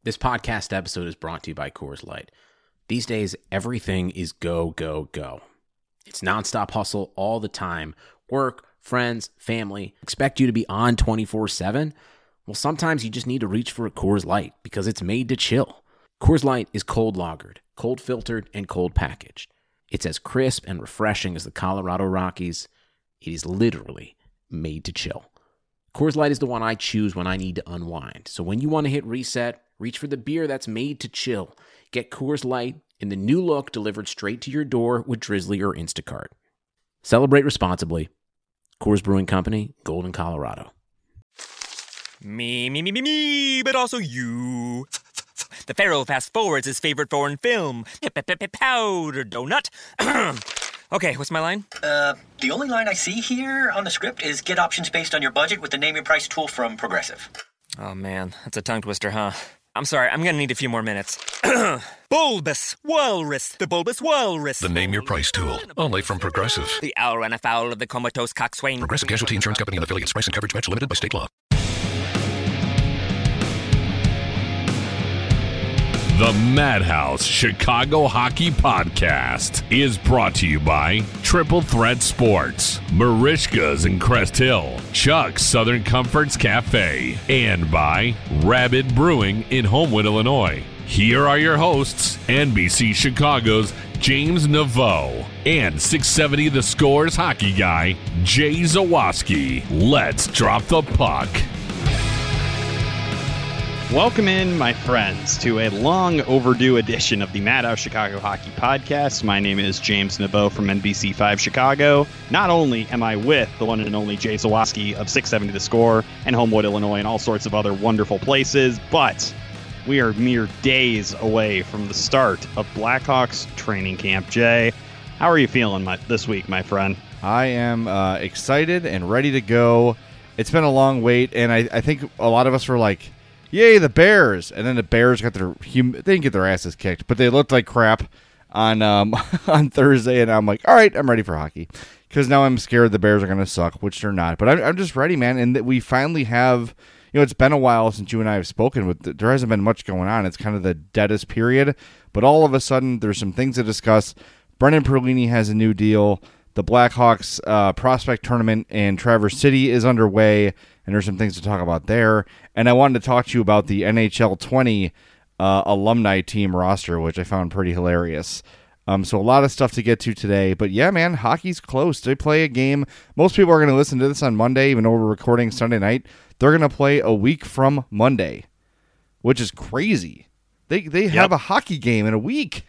This podcast episode is brought to you by Coors Light. These days, everything is go, go, go. It's nonstop hustle all the time. Work, friends, family, expect you to be on 24/7. Well, sometimes you just need to reach for a Coors Light because it's made to chill. Coors Light is cold lagered, cold filtered, and cold packaged. It's as crisp and refreshing as the Colorado Rockies. It is literally made to chill. Coors Light is the one I choose when I need to unwind. So when you want to hit reset, reach for the beer that's made to chill. Get Coors Light in the new look delivered straight to your door with Drizzly or Instacart. Celebrate responsibly. Coors Brewing Company, Golden, Colorado. Me, but also you. The Pharaoh fast forwards his favorite foreign film, Powder Donut. Okay, what's my line? The only line I see here on the script is get options based on your budget with the Name Your Price tool from Progressive. Oh man, that's a tongue twister, huh? I'm sorry, I'm gonna need a few more minutes. Bulbous Walrus, the Bulbous Walrus. The Name Your Price tool, only from Progressive. The owl ran afoul of the comatose coxswain. Progressive Casualty Insurance Company and affiliates. Price and coverage match limited by state law. The Madhouse Chicago Hockey Podcast is brought to you by Triple Threat Sports, Marishka's in Crest Hill, Chuck's Southern Comforts Cafe, and by Rabid Brewing in Homewood, Illinois. Here are your hosts, NBC Chicago's James Naveau and 670 The Score's hockey guy, Jay Zawaski. Let's drop the puck. Welcome in, my friends, to a long overdue edition of the Madhouse Chicago Hockey Podcast. My name is James Naveau from NBC5 Chicago. Not only am I with the one and only Jay Zawaski of 670 The Score and Homewood, Illinois, and all sorts of other wonderful places, but we are mere days away from the start of Blackhawks training camp. Jay, how are you feeling this week, my friend? I am excited and ready to go. It's been a long wait, and I think a lot of us were like, yay, the Bears! And then the Bears got they didn't get their asses kicked, but they looked like crap on on Thursday, and I'm like, all right, I'm ready for hockey. Because now I'm scared the Bears are going to suck, which they're not. But I'm just ready, man, and that we finally have, it's been a while since you and I have spoken, but there hasn't been much going on. It's kind of the deadest period, but all of a sudden, there's some things to discuss. Brendan Perlini has a new deal. The Blackhawks prospect tournament in Traverse City is underway, and there's some things to talk about there. And I wanted to talk to you about the NHL 20 alumni team roster, which I found pretty hilarious. So a lot of stuff to get to today. But yeah, man, hockey's close. They play a game. Most people are going to listen to this on Monday, even though we're recording Sunday night. They're going to play a week from Monday, which is crazy. They have a hockey game in a week.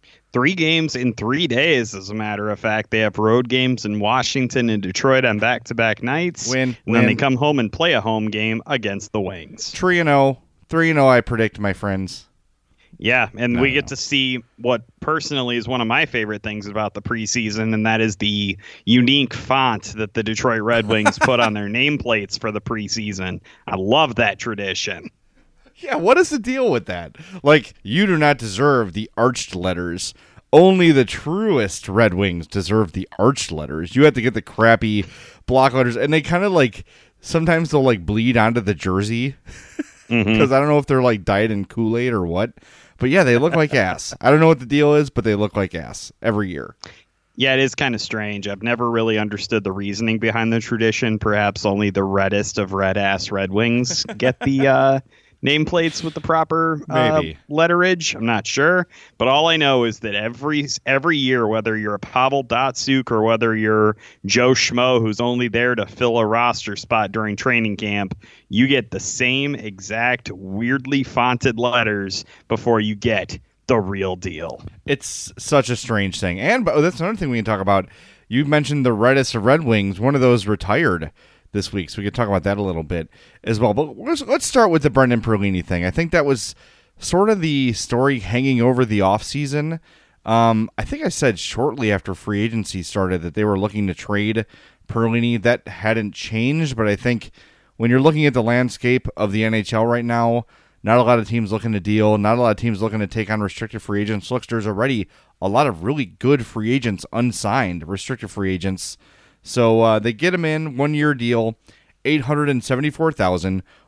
3 games in 3 days, as a matter of fact. They have road games in Washington and Detroit on back-to-back nights. And then they come home and play a home game against the Wings. 3-0. 3-0, I predict, my friends. Yeah, and we get to see what personally is one of my favorite things about the preseason, and that is the unique font that the Detroit Red Wings put on their nameplates for the preseason. I love that tradition. Yeah, what is the deal with that? Like, you do not deserve the arched letters. Only the truest Red Wings deserve the arched letters. You have to get the crappy block letters, and they kind of like, sometimes they'll like bleed onto the jersey. Because I don't know if they're like dyed in Kool-Aid or what. But yeah, they look like ass. I don't know what the deal is, but they look like ass every year. Yeah, it is kind of strange. I've never really understood the reasoning behind the tradition. Perhaps only the reddest of red-ass Red Wings get the nameplates with the proper letterage. I'm not sure. But all I know is that every year, whether you're a Pavel Datsyuk or whether you're Joe Schmo, who's only there to fill a roster spot during training camp, you get the same exact weirdly fonted letters before you get the real deal. It's such a strange thing. And that's another thing we can talk about. You mentioned the reddest of Red Wings. One of those retired this week, so we could talk about that a little bit as well. But let's start with the Brendan Perlini thing. I think that was sort of the story hanging over the offseason. I think I said shortly after free agency started that they were looking to trade Perlini. That hadn't changed, but I think when you're looking at the landscape of the NHL right now, not a lot of teams looking to deal, not a lot of teams looking to take on restricted free agents. Looks, there's already a lot of really good free agents unsigned, restricted free agents. So they get him in, 1-year deal, $874,000,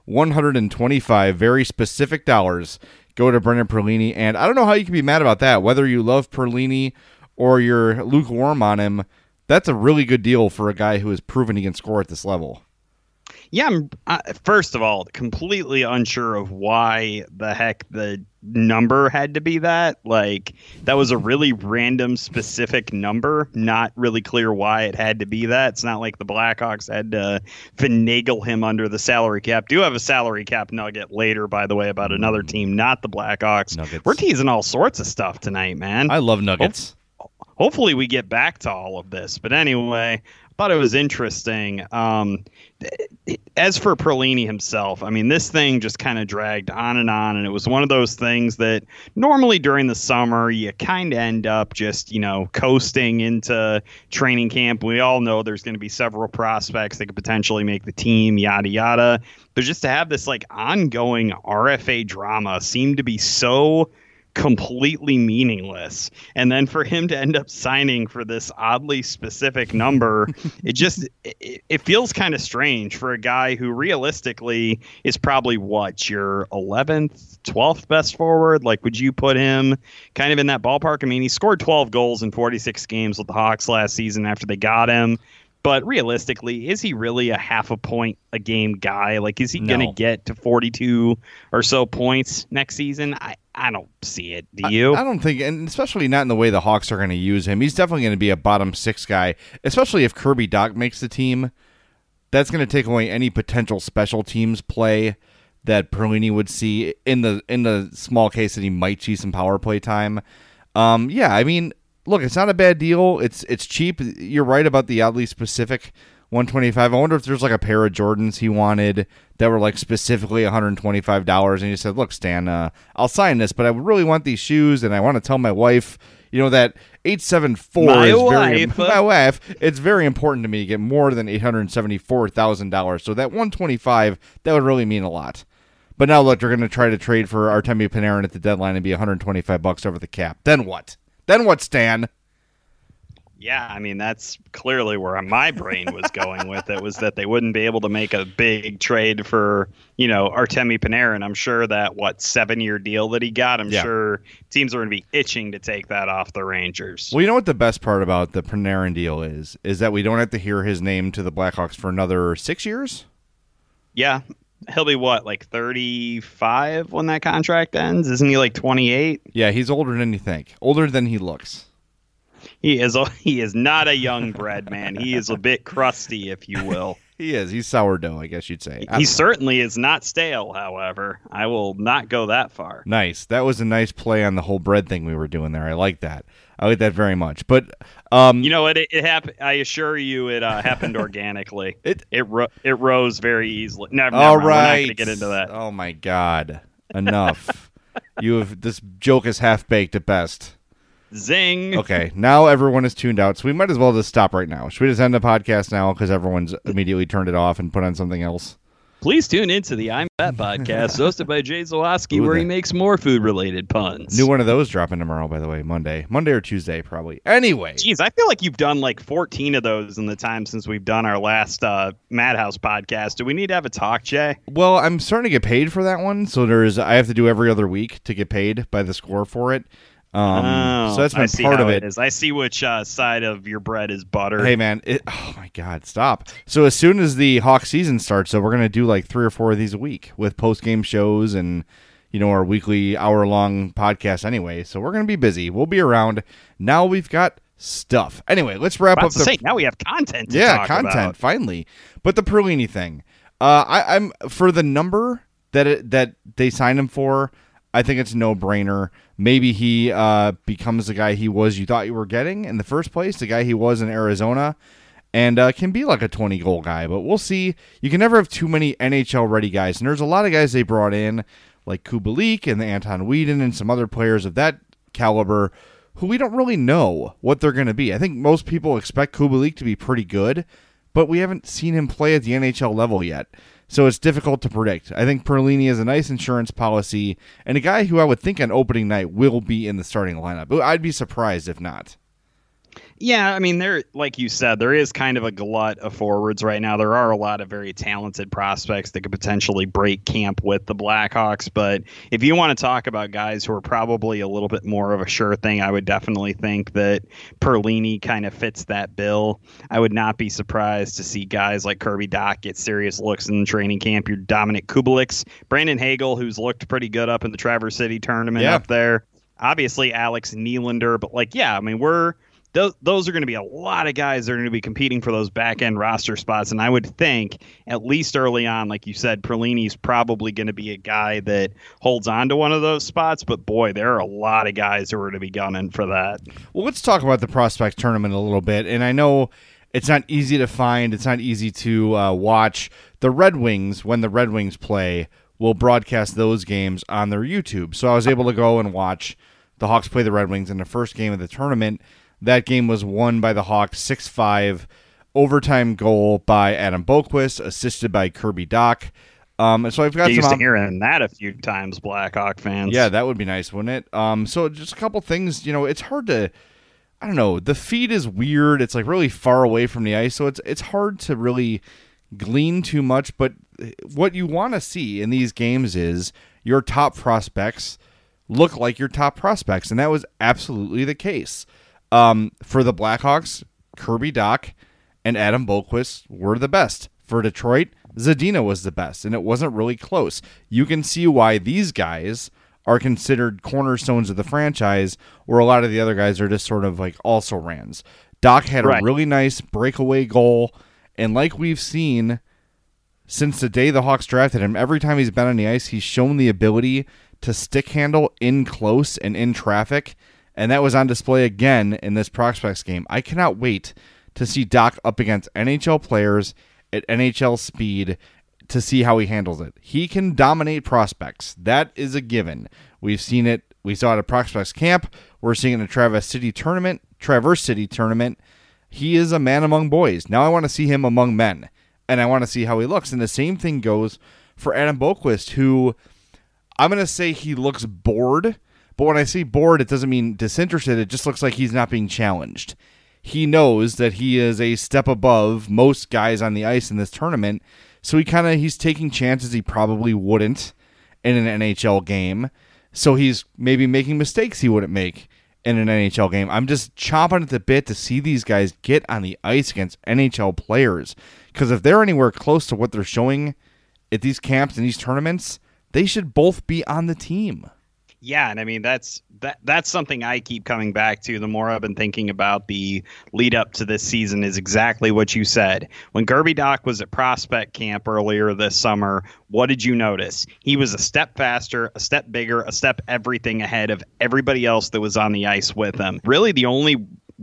$125 very specific dollars go to Brendan Perlini. And I don't know how you can be mad about that. Whether you love Perlini or you're lukewarm on him, that's a really good deal for a guy who has proven he can score at this level. Yeah, I'm first of all completely unsure of why the heck the number had to be that. Like, that was a really random, specific number. Not really clear why it had to be that. It's not like the Blackhawks had to finagle him under the salary cap. Do have a salary cap nugget later, by the way, about another team, not the Blackhawks. Nuggets. We're teasing all sorts of stuff tonight, man. I love nuggets. Hopefully we get back to all of this. But anyway, I thought it was interesting. As for Perlini himself, I mean, this thing just kind of dragged on, and it was one of those things that normally during the summer you kind of end up just, coasting into training camp. We all know there's going to be several prospects that could potentially make the team, yada, yada. But just to have this like ongoing RFA drama seemed to be so completely meaningless, and then for him to end up signing for this oddly specific number, it feels kind of strange for a guy who realistically is probably your 11th 12th best forward. Like, would you put him kind of in that ballpark? I mean, he scored 12 goals in 46 games with the Hawks last season after they got him. But realistically, is he really a half a point a game guy? Like, is he going to get to 42 or so points next season? I don't see it. Do you? I don't think, and especially not in the way the Hawks are going to use him. He's definitely going to be a bottom six guy, especially if Kirby Dach makes the team. That's going to take away any potential special teams play that Perlini would see in the small case that he might see some power play time. Yeah, I mean, look, it's not a bad deal. It's cheap. You're right about the oddly specific 125. I wonder if there's like a pair of Jordans he wanted that were like specifically $125, and he said, "Look, Stan, I'll sign this, but I would really want these shoes, and I want to tell my wife, that 874 my wife. It's very important to me to get more than $874,000. So that 125, that would really mean a lot." But now look, they're going to try to trade for Artemi Panarin at the deadline and be $125 over the cap. Then what? Then what, Stan? Yeah, I mean, that's clearly where my brain was going with it, was that they wouldn't be able to make a big trade for, Artemi Panarin. I'm sure that, 7-year deal that he got, I'm sure teams are going to be itching to take that off the Rangers. Well, you know what the best part about the Panarin deal is that we don't have to hear his name to the Blackhawks for another 6 years? Yeah. He'll be 35 when that contract ends? Isn't he 28? Yeah, he's older than you think. Older than he looks. He is not a young bread man. He is a bit crusty, if you will. He is. He's sourdough, I guess you'd say. He certainly is not stale, however. I will not go that far. Nice. That was a nice play on the whole bread thing we were doing there. I like that. I like that very much. But it happened. I assure you, it happened organically. It rose very easily. Never. All right. We're not going to get into that. Oh my God! Enough. This joke is half baked at best. Zing. Okay, now everyone is tuned out, so we might as well just stop right now. Should we just end the podcast now because everyone's immediately turned it off and put on something else? Please tune into the I'm Fat podcast, hosted by Jay Zawoski, where he makes more food-related puns. New one of those dropping tomorrow, by the way, Monday or Tuesday, probably. Anyway. Jeez, I feel like you've done 14 of those in the time since we've done our last Madhouse podcast. Do we need to have a talk, Jay? Well, I'm starting to get paid for that one, so I have to do every other week to get paid by the score for it. So that's been part of it. I see which side of your bread is butter. Hey man, oh my God, stop. So as soon as the Hawk season starts, so we're gonna do 3 or 4 of these a week with post game shows and our weekly hour-long podcast anyway. So we're gonna be busy. We'll be around. Now we've got stuff. Anyway, let's wrap up. Now we have content. Content about. Finally. But the Perlini thing, I'm for the number that they signed him for. I think it's a no-brainer. Maybe he becomes the guy you thought you were getting in the first place, the guy he was in Arizona, and can be like a 20-goal guy. But we'll see. You can never have too many NHL-ready guys. And there's a lot of guys they brought in, like Kubalik and Anton Whedon and some other players of that caliber, who we don't really know what they're going to be. I think most people expect Kubalik to be pretty good, but we haven't seen him play at the NHL level yet. So it's difficult to predict. I think Perlini is a nice insurance policy and a guy who I would think on opening night will be in the starting lineup. I'd be surprised if not. Yeah, I mean, there, like you said, there is kind of a glut of forwards right now. There are a lot of very talented prospects that could potentially break camp with the Blackhawks. But if you want to talk about guys who are probably a little bit more of a sure thing, I would definitely think that Perlini kind of fits that bill. I would not be surprised to see guys like Kirby Dach get serious looks in the training camp. Your Dominic Kubelik's, Brandon Hagel, who's looked pretty good up in the Traverse City tournament up there. Obviously, Alex Nylander. But, those are going to be a lot of guys that are going to be competing for those back-end roster spots. And I would think, at least early on, like you said, Perlini's probably going to be a guy that holds on to one of those spots. But, boy, there are a lot of guys who are going to be gunning for that. Well, let's talk about the prospect tournament a little bit. And I know it's not easy to find. It's not easy to watch. The Red Wings, when the Red Wings play, will broadcast those games on their YouTube. So I was able to go and watch the Hawks play the Red Wings in the first game of the tournament. That game was won by the Hawks 6-5, overtime goal by Adam Boqvist, assisted by Kirby Dach. So I've got Get used to hearing that a few times, Blackhawk fans. Yeah, that would be nice, wouldn't it? So just a couple things. It's hard to, I don't know. The feed is weird. It's like really far away from the ice, so it's hard to really glean too much. But what you want to see in these games is your top prospects look like your top prospects, and that was absolutely the case. For the Blackhawks, Kirby Dach and Adam Boqvist were the best. For Detroit, Zadina was the best, and it wasn't really close. You can see why these guys are considered cornerstones of the franchise, where a lot of the other guys are just sort of like also-rans. Dach had a really nice breakaway goal, and like we've seen since the day the Hawks drafted him, every time he's been on the ice, he's shown the ability to stick handle in close and in traffic. And that was on display again in this prospects game. I cannot wait to see Dach up against NHL players at NHL speed to see how he handles it. He can dominate prospects. That is a given. We've seen it. We saw it at prospects camp. We're seeing it in the Traverse City tournament. He is a man among boys. Now I want to see him among men, and I want to see how he looks. And the same thing goes for Adam Boqvist, who I'm going to say he looks bored. But when I say bored, it doesn't mean disinterested. It just looks like he's not being challenged. He knows that he is a step above most guys on the ice in this tournament, so he's taking chances he probably wouldn't in an NHL game. So he's maybe making mistakes he wouldn't make in an NHL game. I'm just chomping at the bit to see these guys get on the ice against NHL players, because if they're anywhere close to what they're showing at these camps and these tournaments, they should both be on the team. Yeah, and I mean that's something I keep coming back to the more I've been thinking about the lead up to this season is exactly what you said. When Kirby Dach was at prospect camp earlier this summer, what did you notice? He was a step faster, a step bigger, a step everything ahead of everybody else that was on the ice with him. Really the only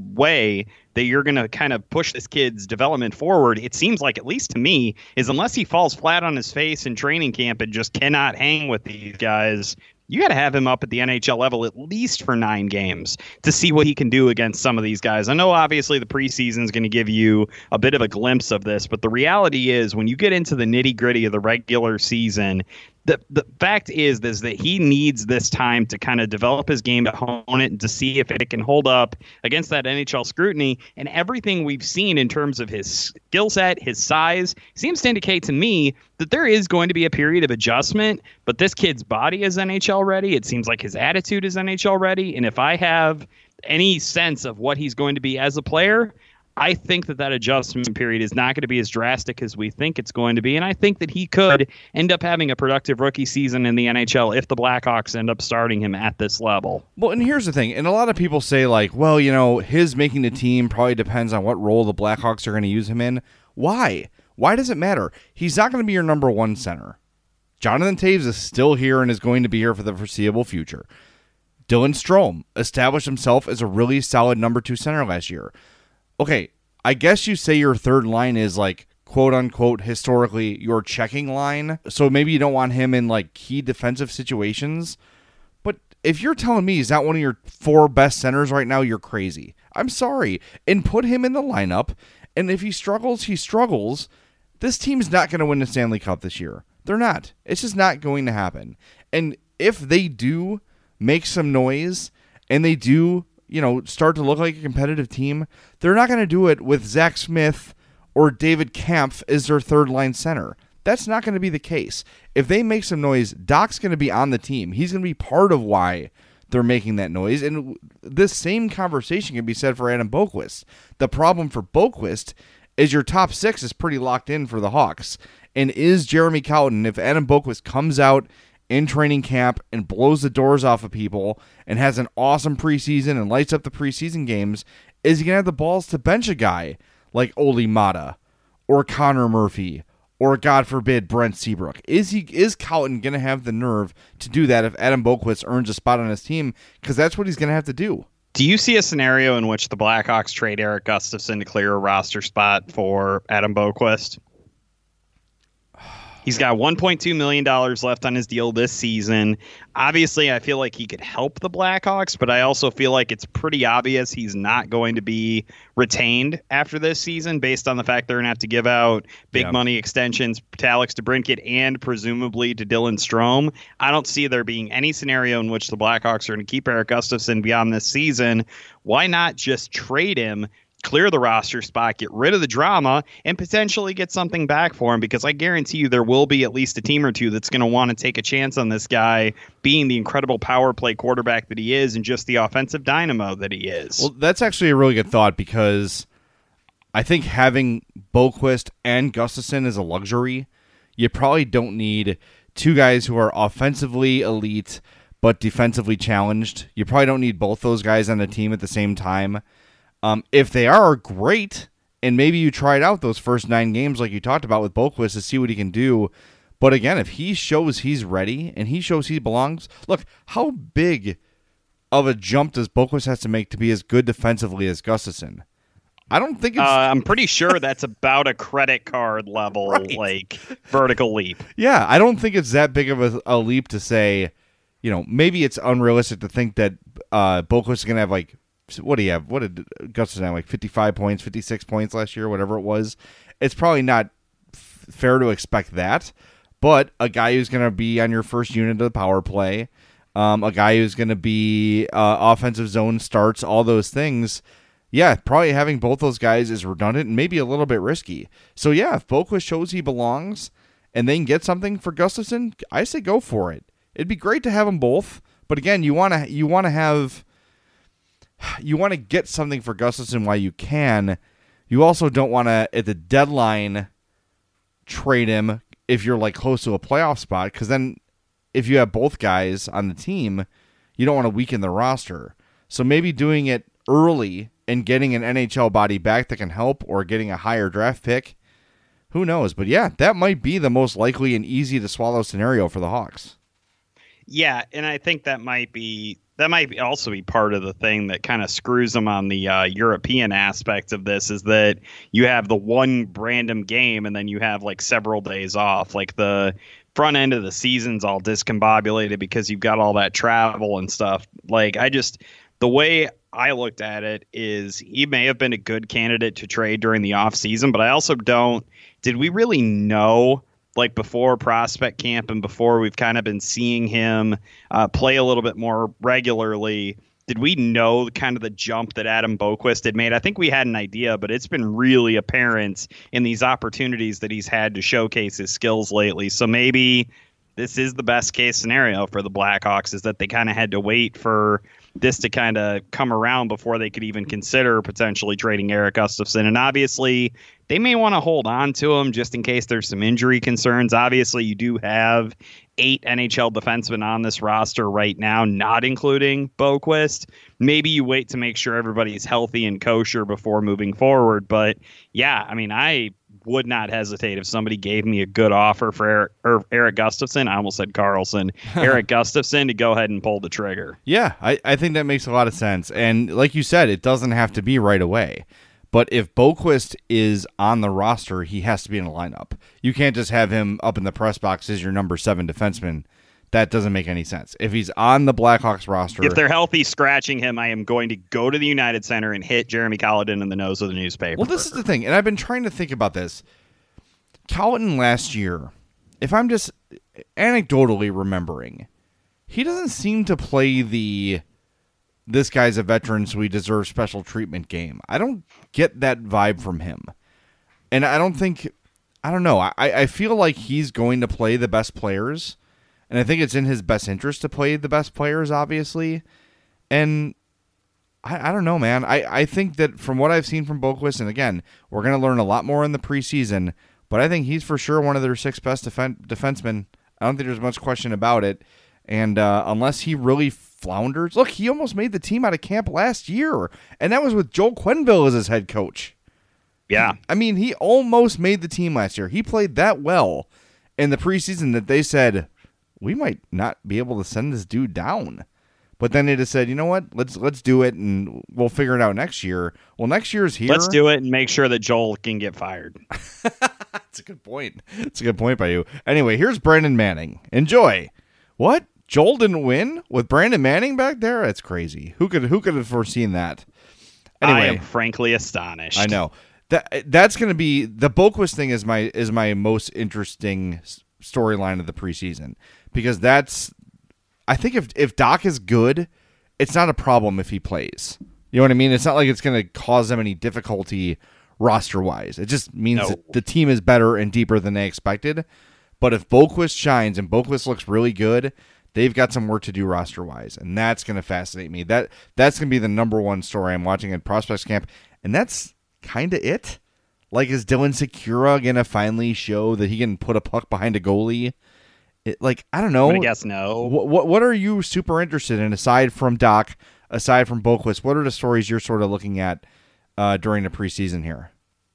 way that you're going to kind of push this kid's development forward, it seems like, at least to me, is unless he falls flat on his face in training camp and just cannot hang with these guys, you got to have him up at the NHL level at least for 9 games to see what he can do against some of these guys. I know obviously the preseason is going to give you a bit of a glimpse of this, but the reality is when you get into the nitty-gritty of the regular season, the fact is that he needs this time to kind of develop his game, to hone it, and to see if it can hold up against that NHL scrutiny. And everything we've seen in terms of his skill set, his size, seems to indicate to me that there is going to be a period of adjustment. But this kid's body is NHL ready. It seems like his attitude is NHL ready. And if I have any sense of what he's going to be as a player, I think that adjustment period is not going to be as drastic as we think it's going to be. And I think that he could end up having a productive rookie season in the NHL if the Blackhawks end up starting him at this level. Well, and here's the thing. And a lot of people say, like, well, his making the team probably depends on what role the Blackhawks are going to use him in. Why? Why does it matter? He's not going to be your number one center. Jonathan Toews is still here and is going to be here for the foreseeable future. Dylan Strome established himself as a really solid number 2 center last year. Okay, I guess you say your third line is like, quote unquote, historically your checking line. So maybe you don't want him in like key defensive situations. But if you're telling me he's not one of your 4 best centers right now, you're crazy. I'm sorry. And put him in the lineup. And if he struggles, he struggles. This team's not going to win the Stanley Cup this year. They're not. It's just not going to happen. And if they do make some noise and they do start to look like a competitive team, they're not going to do it with Zach Smith or David Kampf as their third-line center. That's not going to be the case. If they make some noise, Doc's going to be on the team. He's going to be part of why they're making that noise. And this same conversation can be said for Adam Boqvist. The problem for Boqvist is your top six is pretty locked in for the Hawks. And is Jeremy Colliton, if Adam Boqvist comes out in training camp and blows the doors off of people and has an awesome preseason and lights up the preseason games, is he going to have the balls to bench a guy like Olli Mata or Connor Murphy or, God forbid, Brent Seabrook? Is Colliton going to have the nerve to do that if Adam Boqvist earns a spot on his team? Because that's what he's going to have to do. Do you see a scenario in which the Blackhawks trade Erik Gustafsson to clear a roster spot for Adam Boqvist? He's got $1.2 million left on his deal this season. Obviously, I feel like he could help the Blackhawks, but I also feel like it's pretty obvious he's not going to be retained after this season based on the fact they're going to have to give out big money extensions to Alex DeBrincat and presumably to Dylan Strome. I don't see there being any scenario in which the Blackhawks are going to keep Erik Gustafsson beyond this season. Why not just trade him, clear the roster spot, get rid of the drama, and potentially get something back for him? Because I guarantee you there will be at least a team or two that's going to want to take a chance on this guy being the incredible power play quarterback that he is and just the offensive dynamo that he is. Well, that's actually a really good thought, because I think having Boqvist and Gustafsson is a luxury. You probably don't need two guys who are offensively elite but defensively challenged. You probably don't need both those guys on the team at the same time. If they are, great, and maybe you try it out those first 9 games like you talked about with Boqvist to see what he can do. But again, if he shows he's ready and he shows he belongs, look, how big of a jump does Boqvist have to make to be as good defensively as Gustafsson? I don't think it's... I'm pretty sure that's about a credit card level, like, vertical leap. Yeah, I don't think it's that big of a leap to say, maybe it's unrealistic to think that Boqvist is going to have, like, what do you have? What did Gustafsson have? Like 55 points, 56 points last year, whatever it was. It's probably not fair to expect that, but a guy who's going to be on your first unit of the power play, a guy who's going to be offensive zone starts, all those things. Yeah, probably having both those guys is redundant and maybe a little bit risky. So yeah, if Boqvist shows he belongs and they can get something for Gustafsson, I say go for it. It'd be great to have them both, but again, you want to get something for Gustafsson while you can. You also don't want to, at the deadline, trade him if you're like close to a playoff spot, because then if you have both guys on the team, you don't want to weaken the roster. So maybe doing it early and getting an NHL body back that can help, or getting a higher draft pick, who knows? But yeah, that might be the most likely and easy to swallow scenario for the Hawks. Yeah, and I think that might also be part of the thing that kind of screws them on the European aspect of this, is that you have the one random game and then you have like several days off. Like the front end of the season's all discombobulated because you've got all that travel and stuff. Like the way I looked at it is he may have been a good candidate to trade during the off season, but I also did we really know, like before prospect camp and before we've kind of been seeing him play a little bit more regularly, did we know kind of the jump that Adam Boqvist had made? I think we had an idea, but it's been really apparent in these opportunities that he's had to showcase his skills lately. So maybe this is the best case scenario for the Blackhawks, is that they kind of had to wait for this to kind of come around before they could even consider potentially trading Erik Gustafsson. And obviously they may want to hold on to him just in case there's some injury concerns. Obviously you do have 8 NHL defensemen on this roster right now, not including Boqvist. Maybe you wait to make sure everybody's healthy and kosher before moving forward. But yeah, I mean, I would not hesitate if somebody gave me a good offer for Erik Gustafsson. I almost said Carlson. Erik Gustafsson, to go ahead and pull the trigger. Yeah, I think that makes a lot of sense. And like you said, it doesn't have to be right away. But if Boqvist is on the roster, he has to be in a lineup. You can't just have him up in the press box as your number 7 defenseman. That doesn't make any sense. If he's on the Blackhawks roster... If they're healthy scratching him, I am going to go to the United Center and hit Jeremy Colliton in the nose with a newspaper. Well, this is the thing, and I've been trying to think about this. Colliton last year, if I'm just anecdotally remembering, he doesn't seem to play the this guy's a veteran, so he deserves special treatment game. I don't get that vibe from him. And I don't know. I feel like he's going to play the best players, and I think it's in his best interest to play the best players, obviously. And I don't know, man. I think that from what I've seen from Boqvist, and again, we're going to learn a lot more in the preseason, but I think he's for sure one of their 6 best defensemen. I don't think there's much question about it. And unless he really flounders, look, he almost made the team out of camp last year, and that was with Joel Quenneville as his head coach. Yeah. I mean, he almost made the team last year. He played that well in the preseason that they said, we might not be able to send this dude down. But then they just said, you know what, let's do it, and we'll figure it out next year. Well, next year's here. Let's do it and make sure that Joel can get fired. That's a good point. That's a good point by you. Anyway, here's Brandon Manning. Enjoy. What? Joel didn't win with Brandon Manning back there? That's crazy. Who could have foreseen that? Anyway, I am frankly astonished. I know. That's going to be the Boqvist thing is my most interesting storyline of the preseason, because I think if Doc is good, it's not a problem if he plays. You know what I mean? It's not like it's going to cause them any difficulty roster wise. It just means that the team is better and deeper than they expected. But if Boqvist shines and Boqvist looks really good, they've got some work to do roster wise, and that's going to fascinate me. That's going to be the number one story I'm watching at Prospects Camp, and that's kind of it. Like, is Dylan Sikura going to finally show that he can put a puck behind a goalie? I don't know. I'm going to guess no. What are you super interested in aside from Doc, aside from Boqvist? What are the stories you're sort of looking at during the preseason here?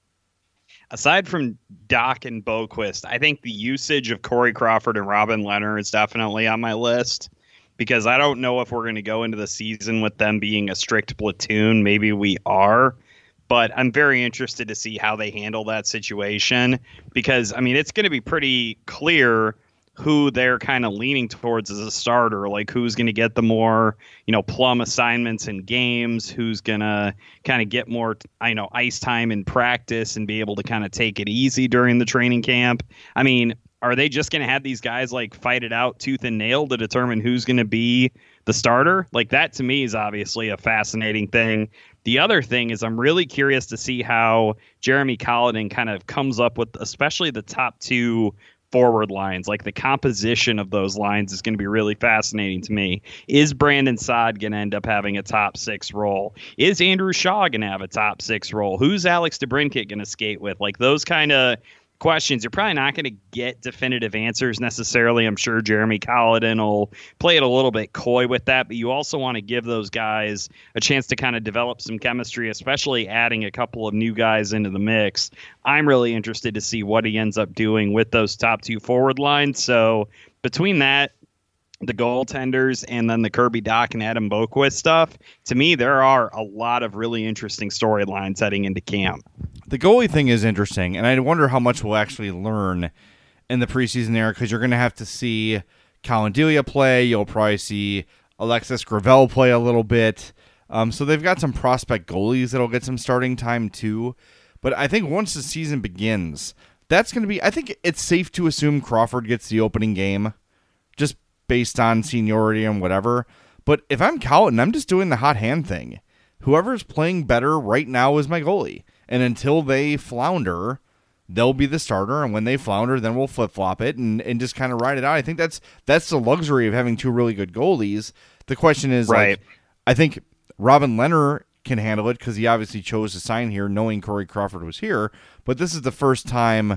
Aside from Doc and Boqvist, I think the usage of Corey Crawford and Robin Lehner is definitely on my list, because I don't know if we're going to go into the season with them being a strict platoon. Maybe we are, but I'm very interested to see how they handle that situation, because, I mean, it's going to be pretty clear who they're kind of leaning towards as a starter, like who's going to get the more, plum assignments in games, who's going to kind of get more, ice time in practice and be able to kind of take it easy during the training camp. I mean, are they just going to have these guys fight it out tooth and nail to determine who's going to be the starter? That to me is obviously a fascinating thing. The other thing is I'm really curious to see how Jeremy Colliton kind of comes up with, especially the top 2 forward lines. The composition of those lines is going to be really fascinating to me. Is Brandon Saad going to end up having a top 6 role? Is Andrew Shaw going to have a top 6 role? Who's Alex DeBrincat going to skate with? Those kind of questions, you're probably not going to get definitive answers necessarily. I'm sure Jeremy Colliton will play it a little bit coy with that, but you also want to give those guys a chance to kind of develop some chemistry, especially adding a couple of new guys into the mix. I'm really interested to see what he ends up doing with those top 2 forward lines. So between that, the goaltenders, and then the Kirby Doc and Adam Boqvist stuff, to me, there are a lot of really interesting storylines heading into camp. The goalie thing is interesting, and I wonder how much we'll actually learn in the preseason era, because you're going to have to see Colin Delia play. You'll probably see Alexis Gravel play a little bit. So they've got some prospect goalies that'll get some starting time too. But I think once the season begins, that's going to be, I think it's safe to assume Crawford gets the opening game, just based on seniority and whatever. But if I'm Colliton, I'm just doing the hot hand thing. Whoever's playing better right now is my goalie. And until they flounder, they'll be the starter. And when they flounder, then we'll flip-flop it and just kind of ride it out. I think that's the luxury of having 2 really good goalies. The question is, right. I think Robin Lehner can handle it because he obviously chose to sign here knowing Corey Crawford was here. But this is the first time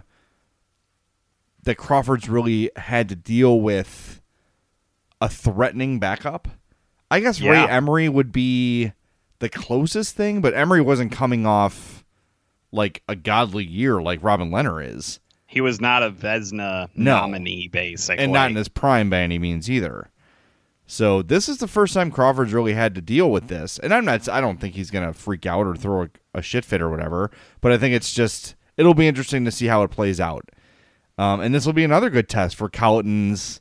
that Crawford's really had to deal with a threatening backup. I guess Ray Emery would be the closest thing, but Emery wasn't coming off a godly year like Robin Lehner is. He was not a Vezina nominee, basically. And not in his prime by any means either. So this is the first time Crawford's really had to deal with this. And I don't think he's going to freak out or throw a shit fit or whatever, but I think it'll be interesting to see how it plays out. And this will be another good test for Colliton's,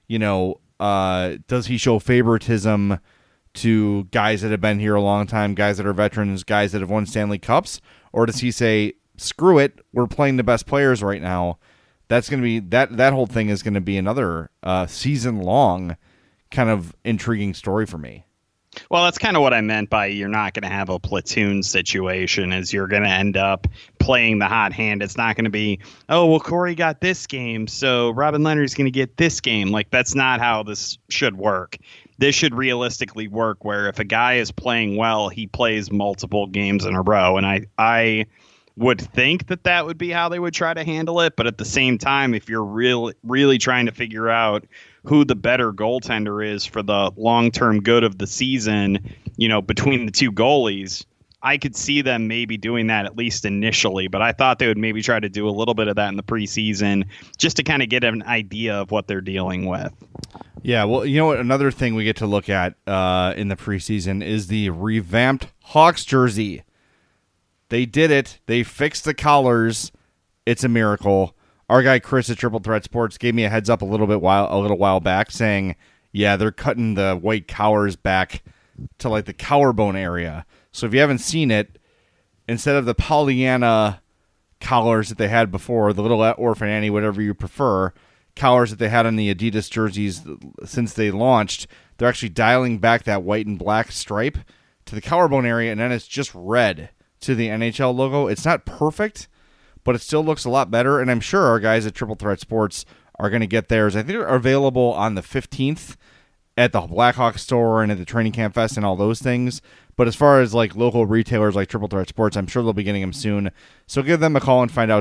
does he show favoritism to guys that have been here a long time, guys that are veterans, guys that have won Stanley Cups? Or does he say, screw it, we're playing the best players right now? That's going to be, that whole thing is going to be another season-long kind of intriguing story for me. Well, that's kind of what I meant by you're not going to have a platoon situation, is you're going to end up playing the hot hand. It's not going to be, oh, well, Corey got this game, so Robin Leonard's going to get this game. Like, that's not how this should work. This should realistically work where if a guy is playing well, he plays multiple games in a row. And I would think that would be how they would try to handle it. But at the same time, if you're really trying to figure out who the better goaltender is for the long-term good of the season, between the two goalies, I could see them maybe doing that at least initially. But I thought they would maybe try to do a little bit of that in the preseason just to kind of get an idea of what they're dealing with. Yeah, well, you know what? Another thing we get to look at in the preseason is the revamped Hawks jersey. They did it. They fixed the collars. It's a miracle. Our guy Chris at Triple Threat Sports gave me a heads up a little while back, saying, yeah, they're cutting the white collars back to like the collarbone area. So if you haven't seen it, instead of the Pollyanna collars that they had before, the Little Orphan Annie, whatever you prefer, collars that they had on the Adidas jerseys since they launched, they're actually dialing back that white and black stripe to the collarbone area, and then it's just red to the NHL logo. It's not perfect, but it still looks a lot better, and I'm sure our guys at Triple Threat Sports are going to get theirs. I think they're available on the 15th at the Blackhawk store and at the Training Camp Fest and all those things. But as far as like local retailers like Triple Threat Sports, I'm sure they'll be getting them soon. So give them a call and find out,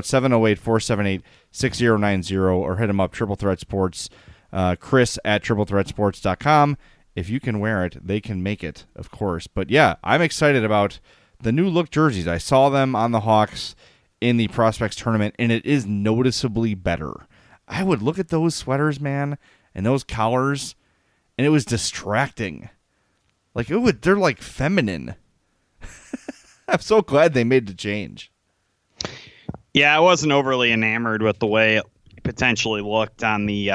708-478-6090, or hit them up, Triple Threat Sports, Chris at triplethreatsports.com. If you can wear it, they can make it, of course. But yeah, I'm excited about the new look jerseys. I saw them on the Hawks in the Prospects tournament, and it is noticeably better. I would look at those sweaters, man, and those collars, and it was distracting. Like, they're like feminine. I'm so glad they made the change. Yeah, I wasn't overly enamored with the way it potentially looked on the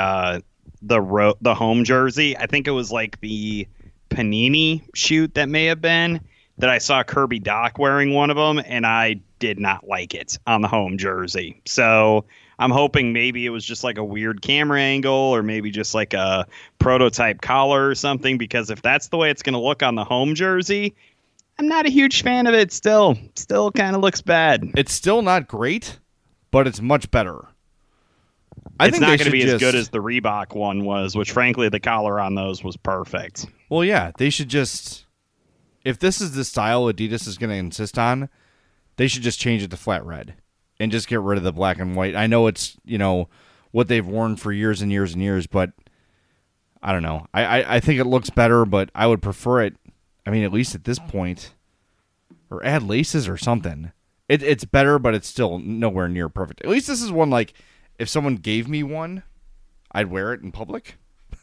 home jersey. I think it was like the Panini shoot that may have been that I saw Kirby Doc wearing one of them, and I did not like it on the home jersey. So I'm hoping maybe it was just like a weird camera angle, or maybe just like a prototype collar or something, because if that's the way it's going to look on the home jersey, I'm not a huge fan of it still. Still kind of looks bad. It's still not great, but it's much better. It's not going to be as good as the Reebok one was, which frankly the collar on those was perfect. Well, yeah, they should just, if this is the style Adidas is going to insist on, they should just change it to flat red and just get rid of the black and white. I know it's, what they've worn for years and years and years, but I don't know. I think it looks better, but I would prefer it, at least at this point, or add laces or something. It's better, but it's still nowhere near perfect. At least this is one, like, if someone gave me one, I'd wear it in public.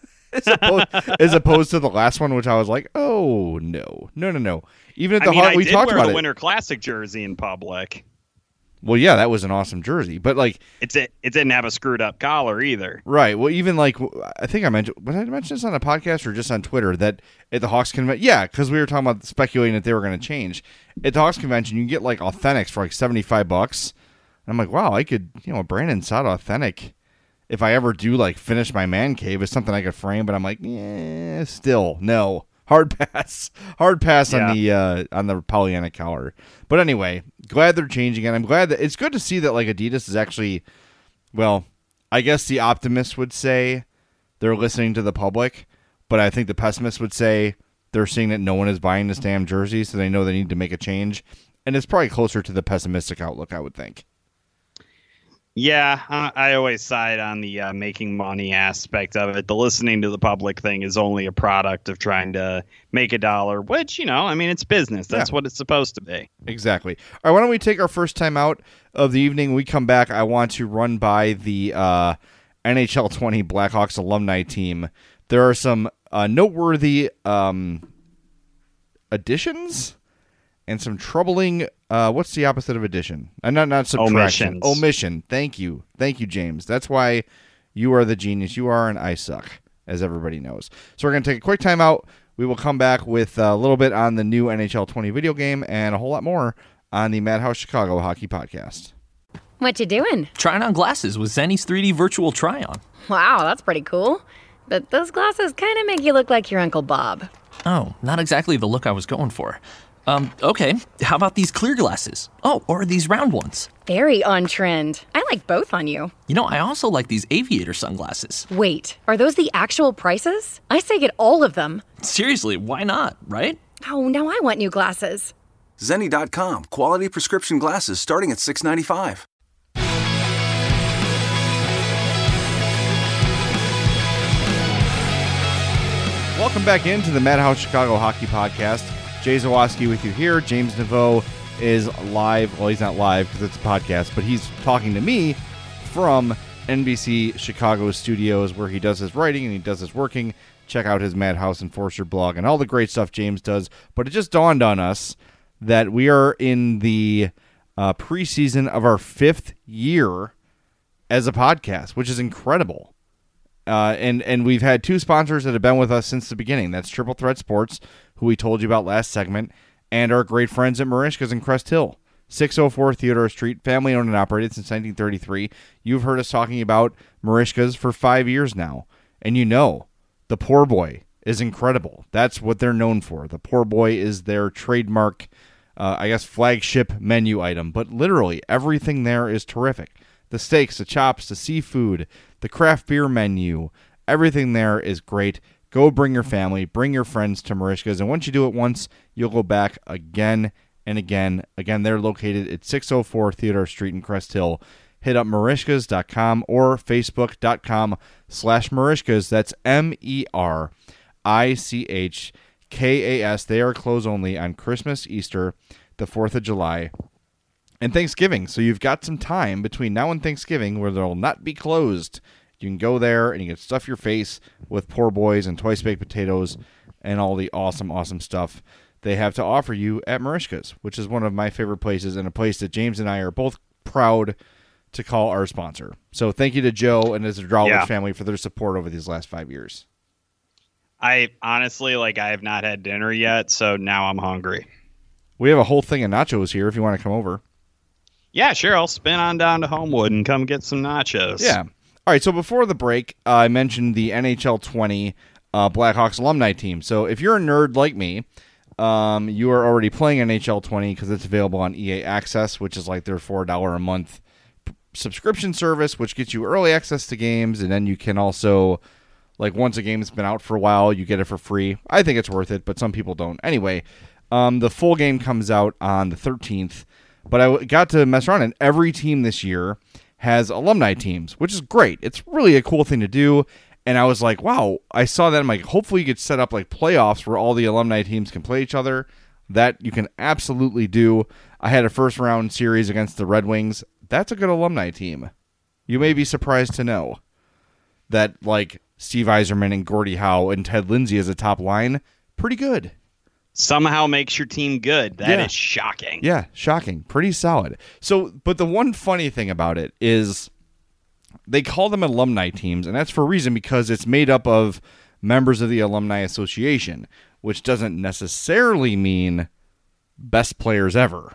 as opposed to the last one, which I was like, oh, no. Even at the Hawks, we talked about it. I did wear the Winter Classic jersey in public. Well, yeah, that was an awesome jersey, but like it didn't have a screwed up collar either. Right. Well, even like I think I mentioned, did I mention this on a podcast or just on Twitter that at the Hawks convention? Yeah, because we were talking about speculating that they were going to change at the Hawks convention. You can get like Authentics for like $75, and I'm like, wow, I could, a Brandon Saad Authentic. If I ever do like finish my man cave, is something I could frame, but I'm like, still no. Hard pass yeah. on the Pollyanna collar. But anyway, glad they're changing it. I'm glad that it's good to see that like Adidas is actually, well, I guess the optimists would say they're listening to the public, but I think the pessimists would say they're seeing that no one is buying this damn jersey, so they know they need to make a change. And it's probably closer to the pessimistic outlook, I would think. Yeah, I always side on the making money aspect of it. The listening to the public thing is only a product of trying to make a dollar, which, it's business. That's what it's supposed to be. Exactly. All right, why don't we take our first time out of the evening? When we come back, I want to run by the NHL 20 Blackhawks alumni team. There are some noteworthy additions and some troubling, what's the opposite of addition? Not subtraction. Omission. Thank you, James. That's why you are the genius you are, and I suck, as everybody knows. So we're going to take a quick time out. We will come back with a little bit on the new NHL 20 video game and a whole lot more on the Madhouse Chicago Hockey Podcast. What you doing? Trying on glasses with Zenny's 3D virtual try-on. Wow, that's pretty cool. But those glasses kind of make you look like your Uncle Bob. Oh, not exactly the look I was going for. Okay, how about these clear glasses? Oh, or these round ones? Very on trend. I like both on you. You know, I also like these aviator sunglasses. Wait, are those the actual prices? I say get all of them. Seriously, why not, right? Oh, now I want new glasses. Zenni.com. Quality prescription glasses starting at $6.95. Welcome back into the Madhouse Chicago Hockey Podcast. Jay Zawaski with you here. James Naveau is live. Well, he's not live because it's a podcast, but he's talking to me from NBC Chicago studios where he does his writing and he does his working. Check out his Madhouse Enforcer blog and all the great stuff James does. But it just dawned on us that we are in the preseason of our 5th year as a podcast, which is incredible. And we've had 2 sponsors that have been with us since the beginning. That's Triple Threat Sports, who we told you about last segment, and our great friends at Merichka's in Crest Hill, 604 Theodore Street, family owned and operated since 1933. You've heard us talking about Merichka's for 5 years now, and you know the Poor Boy is incredible. That's what they're known for. The Poor Boy is their trademark, flagship menu item, but literally everything there is terrific. The steaks, the chops, the seafood, the craft beer menu, everything there is great. Go bring your family, bring your friends to Merichka's, and once you do it once, you'll go back again and again. Again, they're located at 604 Theodore Street in Crest Hill. Hit up Merichkas.com or Facebook.com/Merichkas. That's MERICHKAS. They are closed only on Christmas, Easter, the 4th of July, and Thanksgiving. So you've got some time between now and Thanksgiving where they'll not be closed. You can go there and you can stuff your face with Poor Boys and Twice Baked Potatoes and all the awesome, awesome stuff they have to offer you at Merichka's, which is one of my favorite places and a place that James and I are both proud to call our sponsor. So thank you to Joe and his Drawlich family for their support over these last 5 years. I honestly, I have not had dinner yet, so now I'm hungry. We have a whole thing of nachos here if you want to come over. Yeah, sure. I'll spin on down to Homewood and come get some nachos. Yeah. All right, so before the break, I mentioned the NHL 20 Blackhawks alumni team. So if you're a nerd like me, you are already playing NHL 20 because it's available on EA Access, which is like their $4 a month subscription service, which gets you early access to games, and then you can also, once a game's been out for a while, you get it for free. I think it's worth it, but some people don't. Anyway, the full game comes out on the 13th, but I got to mess around, and every team this year has alumni teams, which is great. It's really a cool thing to do. And I was like, wow, I saw that. I'm like, hopefully you could set up playoffs where all the alumni teams can play each other. That you can absolutely do. I had a first round series against the Red Wings. That's a good alumni team. You may be surprised to know that Steve Yzerman and Gordie Howe and Ted Lindsay as a top line, pretty good. Somehow makes your team good. That is shocking. Yeah, shocking. Pretty solid. So, but the one funny thing about it is they call them alumni teams, and that's for a reason, because it's made up of members of the Alumni Association, which doesn't necessarily mean best players ever.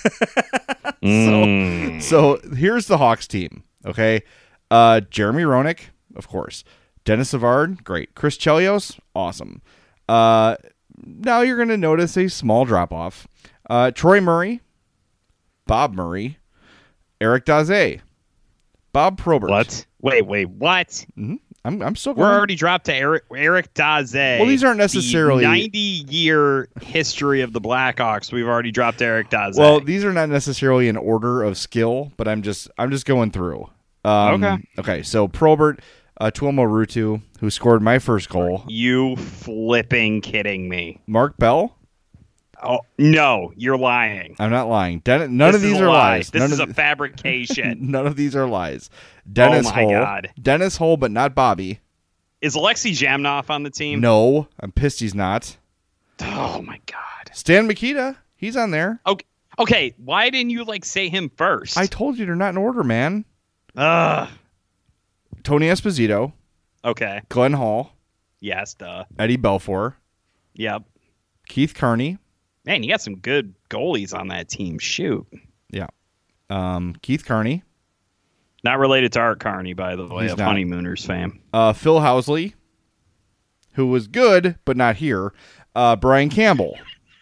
So here's the Hawks team, okay? Jeremy Roenick, of course. Dennis Savard, great. Chris Chelios, awesome. Now you're going to notice a small drop-off. Troy Murray, Bob Murray, Eric Daze, Bob Probert. What? Wait, what? Mm-hmm. I'm still going. We're already dropped to Eric Daze. Well, these aren't necessarily... The 90-year history of the Blackhawks, we've already dropped Eric Daze. Well, these are not necessarily in order of skill, but I'm just going through. Okay, so Probert... Tuomo Ruutu, who scored my first goal. You flipping kidding me. Mark Bell? Oh, no, you're lying. I'm not lying. None of these are lies. This is a fabrication. None of these are lies. Dennis Hull. God. Dennis Hull, but not Bobby. Is Alexei Zhamnov on the team? No, I'm pissed he's not. Oh, my God. Stan Mikita, he's on there. Okay, why didn't you, say him first? I told you they're not in order, man. Ugh. Tony Esposito. Okay. Glenn Hall. Yes, duh. Eddie Belfour. Yep. Keith Kearney. Man, you got some good goalies on that team. Shoot. Yeah. Keith Kearney. Not related to Art Carney, by the way, He's of not. Honeymooners fame. Phil Housley, who was good, but not here. Brian Campbell.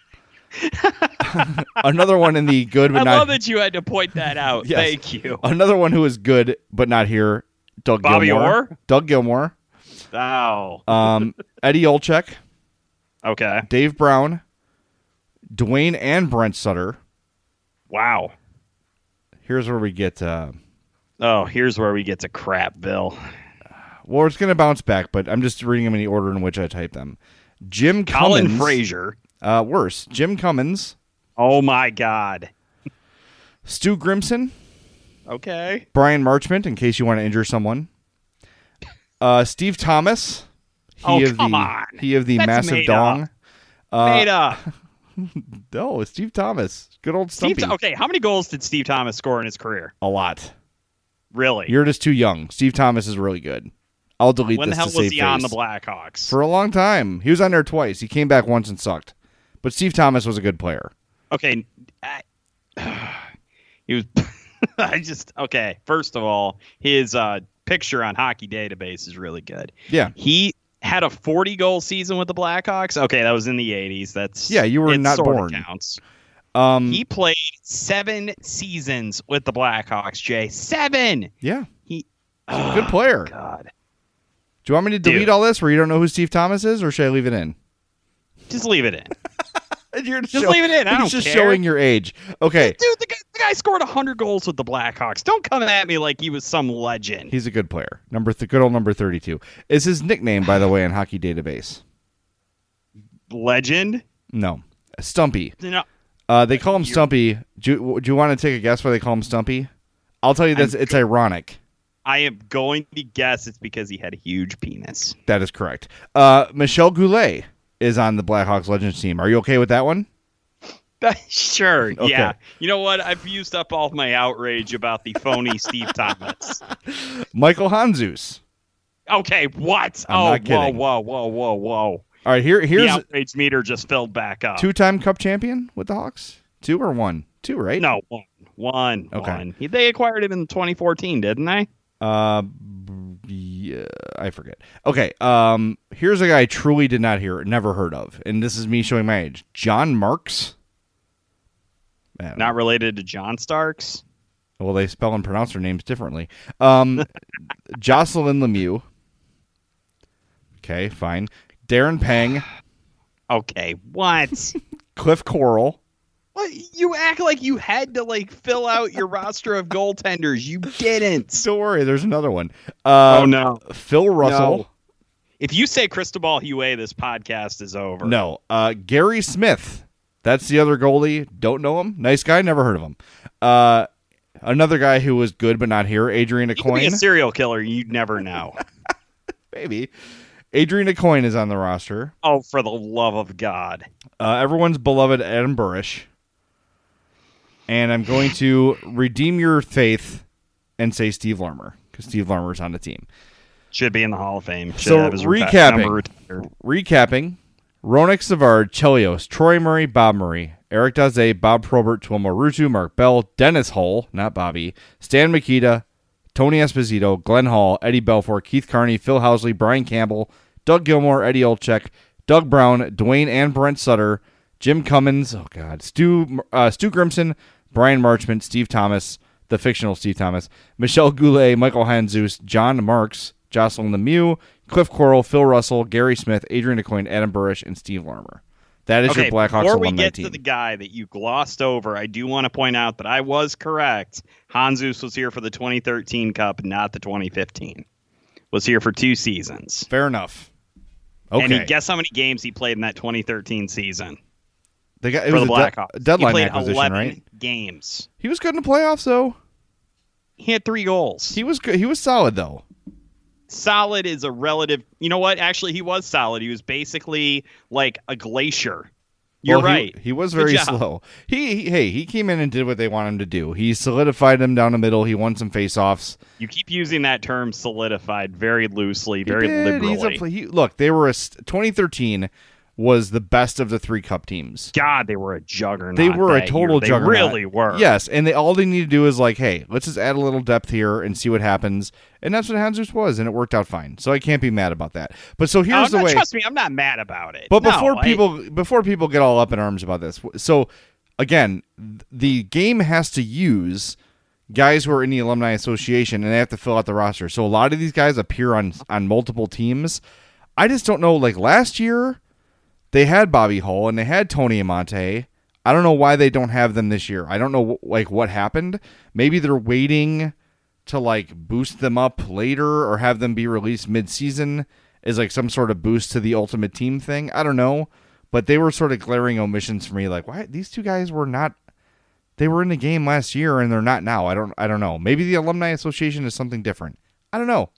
Another one in the good but I not... love that you had to point that out. Yes. Thank you. Another one who is good but not here, Doug Bobby Gilmore. Orr? Doug Gilmore. Oh. Eddie Olczyk. Okay. Dave Brown. Dwayne and Brent Sutter. Wow. Here's where we get... here's where we get to Crapville. Well, it's going to bounce back, but I'm just reading them in the order in which I type them. Jim Colin Cummins. Frazier. Worse. Jim Cummins. Oh, my God. Stu Grimson. Okay. Brian Marchment, in case you want to injure someone. Steve Thomas. He of the That's massive dong. Made up. No, Steve Thomas. Good old Stumpy. Okay, how many goals did Steve Thomas score in his career? A lot. Really? You're just too young. Steve Thomas is really good. I'll delete when this the hell to save was he on face. the Blackhawks? For a long time. He was on there twice. He came back once and sucked. But Steve Thomas was a good player. Okay. He was... Okay, first of all, his picture on Hockey Database is really good. Yeah. He had a 40-goal season with the Blackhawks. Okay, that was in the 80s. That's you were not born. Counts. He played 7 seasons with the Blackhawks, Jay. 7! Yeah. He's a good player. God. Do you want me to delete all this where you don't know who Steve Thomas is, or should I leave it in? Just leave it in. You're just leave it in. I don't He's just care. showing your age. Okay. Dude, the guy scored 100 goals with the Blackhawks. Don't come at me like he was some legend. He's a good player. Good old number 32. Is his nickname, by the way, on Hockey Database? Legend? No. Stumpy. No. They call him Stumpy. Do you want to take a guess why they call him Stumpy? I'll tell you this. It's ironic. I am going to guess it's because he had a huge penis. That is correct. Michel Goulet is on the Blackhawks Legends team. Are you okay with that one? Sure. Okay. Yeah. You know what? I've used up all of my outrage about the phony Steve Thomas. Michael Handzus. Okay. What? I'm not kidding. Whoa. All right. Here's the outrage meter just filled back up. 2-time Cup champion with the Hawks. 2 or 1? 2, right? No, one. Okay. They acquired him in 2014, didn't they? Yeah, I forget. Okay, here's a guy I truly did not never heard of, and this is me showing my age. John Marks. Not related to John Starks? Well, they spell and pronounce their names differently. Jocelyn Lemieux. Okay, fine. Darren Pang. Okay, what? Cliff Coral. What? You act like you had to fill out your roster of goaltenders. You didn't. Don't worry, there's another one. Oh no, Phil Russell. No. If you say Cristobal Huet, this podcast is over. No, Gary Smith. That's the other goalie. Don't know him. Nice guy. Never heard of him. Another guy who was good but not here. Adrian He could be Aucoin. a serial killer. You'd never know. Maybe. Adrian Aucoin is on the roster. Oh, for the love of God. Everyone's beloved Adam Burish. And I'm going to redeem your faith and say Steve Larmer, because Steve Larmer's on the team. Should be in the Hall of Fame. Should So have his recapping, Ronak Savard, Chelios, Troy Murray, Bob Murray, Eric Daze, Bob Probert, Tuomo Ruutu, Mark Bell, Dennis Hull, not Bobby, Stan Mikita, Tony Esposito, Glenn Hall, Eddie Belfour, Keith Carney, Phil Housley, Brian Campbell, Doug Gilmore, Eddie Olczyk, Doug Brown, Dwayne and Brent Sutter, Jim Cummins, Stu Grimson, Brian Marchment, Steve Thomas, the fictional Steve Thomas, Michel Goulet, Michael Handzus, John Marks, Jocelyn Lemieux, Cliff Coral, Phil Russell, Gary Smith, Adrian Aucoin, Adam Burish, and Steve Larmer. That is your Blackhawks before we alumni get team. to the guy that you glossed over, I do want to point out that I was correct. Handzus was here for the 2013 Cup, not the 2015. Was here for 2 seasons. Fair enough. Okay. And guess how many games he played in that 2013 season? It for was the Blackhawks. Deadline he played acquisition, 11 right? games. He was good in the playoffs, though. He had 3 goals. He was good. He was solid, though. Solid is a relative. You know what? Actually, he was solid. He was basically like a glacier. You're right. He was very slow. He came in and did what they wanted him to do. He solidified them down the middle. He won some faceoffs. You keep using that term solidified very loosely, very liberally. Look, they were 2013 was the best of the 3 Cup teams. God, they were a juggernaut. They were a total juggernaut. They really were. Yes, and all they need to do is like, hey, let's just add a little depth here and see what happens. And that's what Hanzus was, and it worked out fine. So I can't be mad about that. But so here's the way. Trust me, I'm not mad about it. But before people get all up in arms about this, so again, the game has to use guys who are in the Alumni Association, and they have to fill out the roster. So a lot of these guys appear on multiple teams. I just don't know. Like last year, they had Bobby Hull and they had Tony Amonte. I don't know why they don't have them this year. I don't know like what happened. Maybe they're waiting to like boost them up later or have them be released mid-season as like some sort of boost to the Ultimate Team thing. I don't know. But they were sort of glaring omissions for me. Like, why these 2 guys were not? They were in the game last year and they're not now. I don't know. Maybe the Alumni Association is something different. I don't know.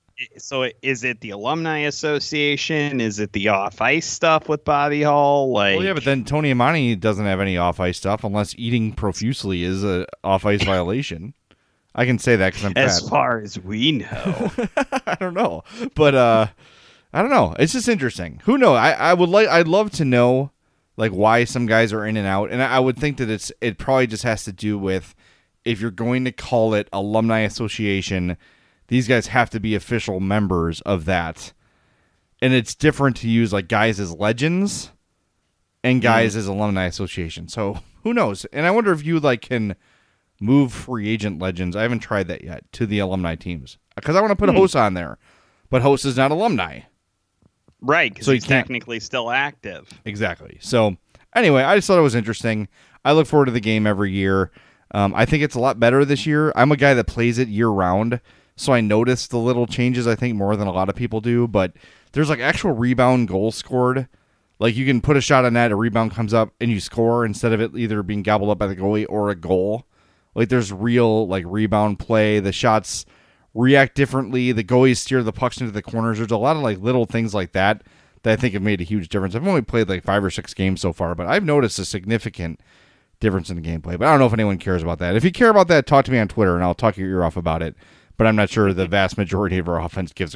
Is it the Alumni Association? Is it the off-ice stuff with Bobby Hull? Like, well, yeah, but then Tony Amonte doesn't have any off-ice stuff unless eating profusely is a off-ice violation. I can say that because I'm fat. As far as we know. I don't know. But I don't know. It's just interesting. Who knows? I'd love to know like why some guys are in and out. And I would think that it probably just has to do with if you're going to call it Alumni Association, these guys have to be official members of that. And it's different to use like guys as legends and guys as Alumni Association. So who knows? And I wonder if you like can move free agent legends. I haven't tried that yet to the alumni teams because I want to put Host on there, but Host is not alumni. Right. Because he's technically still active. Exactly. So anyway, I just thought it was interesting. I look forward to the game every year. I think it's a lot better this year. I'm a guy that plays it year round. So I notice the little changes, I think, more than a lot of people do. But there's like actual rebound goals scored. Like you can put a shot on net, a rebound comes up, and you score instead of it either being gobbled up by the goalie or a goal. Like there's real like rebound play. The shots react differently. The goalies steer the pucks into the corners. There's a lot of like little things like that I think have made a huge difference. I've only played like 5 or 6 games so far, but I've noticed a significant difference in the gameplay. But I don't know if anyone cares about that. If you care about that, talk to me on Twitter, and I'll talk your ear off about it. But I'm not sure the vast majority of our audience gives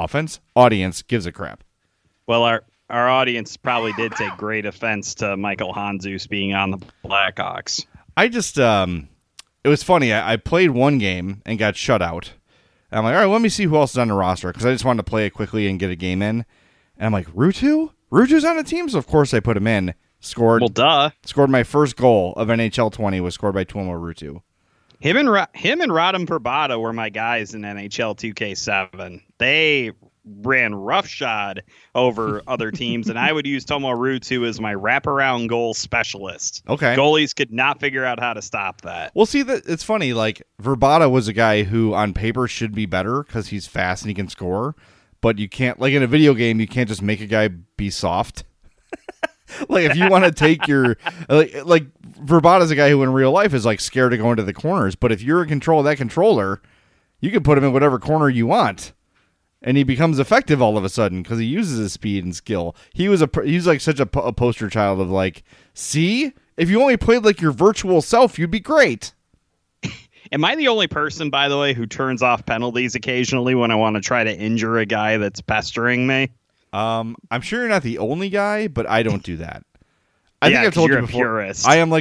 a crap. Well, our audience probably did take great offense to Michael Hanzus being on the Blackhawks. I just, it was funny. I played one game and got shut out. And I'm like, all right, let me see who else is on the roster because I just wanted to play it quickly and get a game in. And I'm like, Ruutu? Ruutu's on the team, so of course I put him in. Scored. Well, duh. Scored my first goal of NHL 20 was scored by Tuomo Ruutu. Him and Radim Vrbata were my guys in NHL 2K7. They ran roughshod over other teams, and I would use Tuomo Ruutu as my wraparound goal specialist. Okay. Goalies could not figure out how to stop that. Well, see, it's funny. Like, Vrbata was a guy who, on paper, should be better because he's fast and he can score. But you can't, like in a video game, you can't just make a guy be soft. Like, if you want to take your, like Vrbata's a guy who in real life is like scared to go into the corners. But if you're in control of that controller, you can put him in whatever corner you want. And he becomes effective all of a sudden because he uses his speed and skill. He was like such a poster child of like, see, if you only played like your virtual self, you'd be great. Am I the only person, by the way, who turns off penalties occasionally when I want to try to injure a guy that's pestering me? I'm sure you're not the only guy, but I don't do that. I think I've told you before. Purist. I am like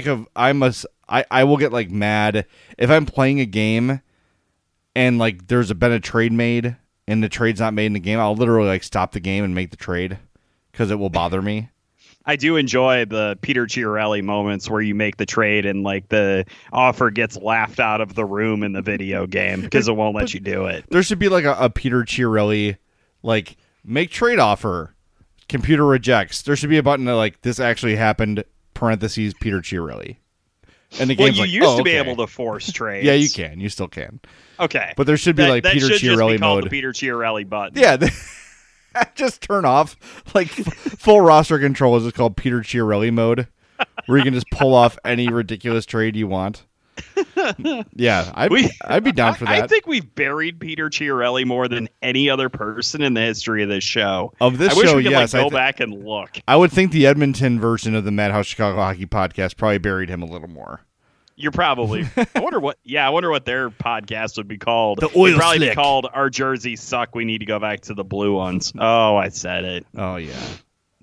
I will get like mad if I'm playing a game and like there's been a trade made and the trade's not made in the game. I'll literally like stop the game and make the trade because it will bother me. I do enjoy the Peter Chiarelli moments where you make the trade and like the offer gets laughed out of the room in the video game because it won't let you do it. There should be like a Peter Chiarelli, like make trade offer, computer rejects. There should be a button that like this actually happened, parentheses Peter Chiarelli. And the game's you used to be able to force trades. Yeah, you can. You still can. Okay. But there should be like Peter Chiarelli mode. That should just be called the Peter Chiarelli button. Yeah. Just turn off like full roster control is just called Peter Chiarelli mode, where you can just pull off any ridiculous trade you want. Yeah, I'd be down for that. I think we've buried Peter Chiarelli more than any other person in the history of this show. Of this show, show, we could, yes. Go back and look. I would think the Edmonton version of the Madhouse Chicago Hockey Podcast probably buried him a little more. You're probably. I wonder what their podcast would be called. The Oil It'd probably Slick. be called Our Jerseys Suck. We need to go back to the blue ones. Oh, I said it. Oh yeah.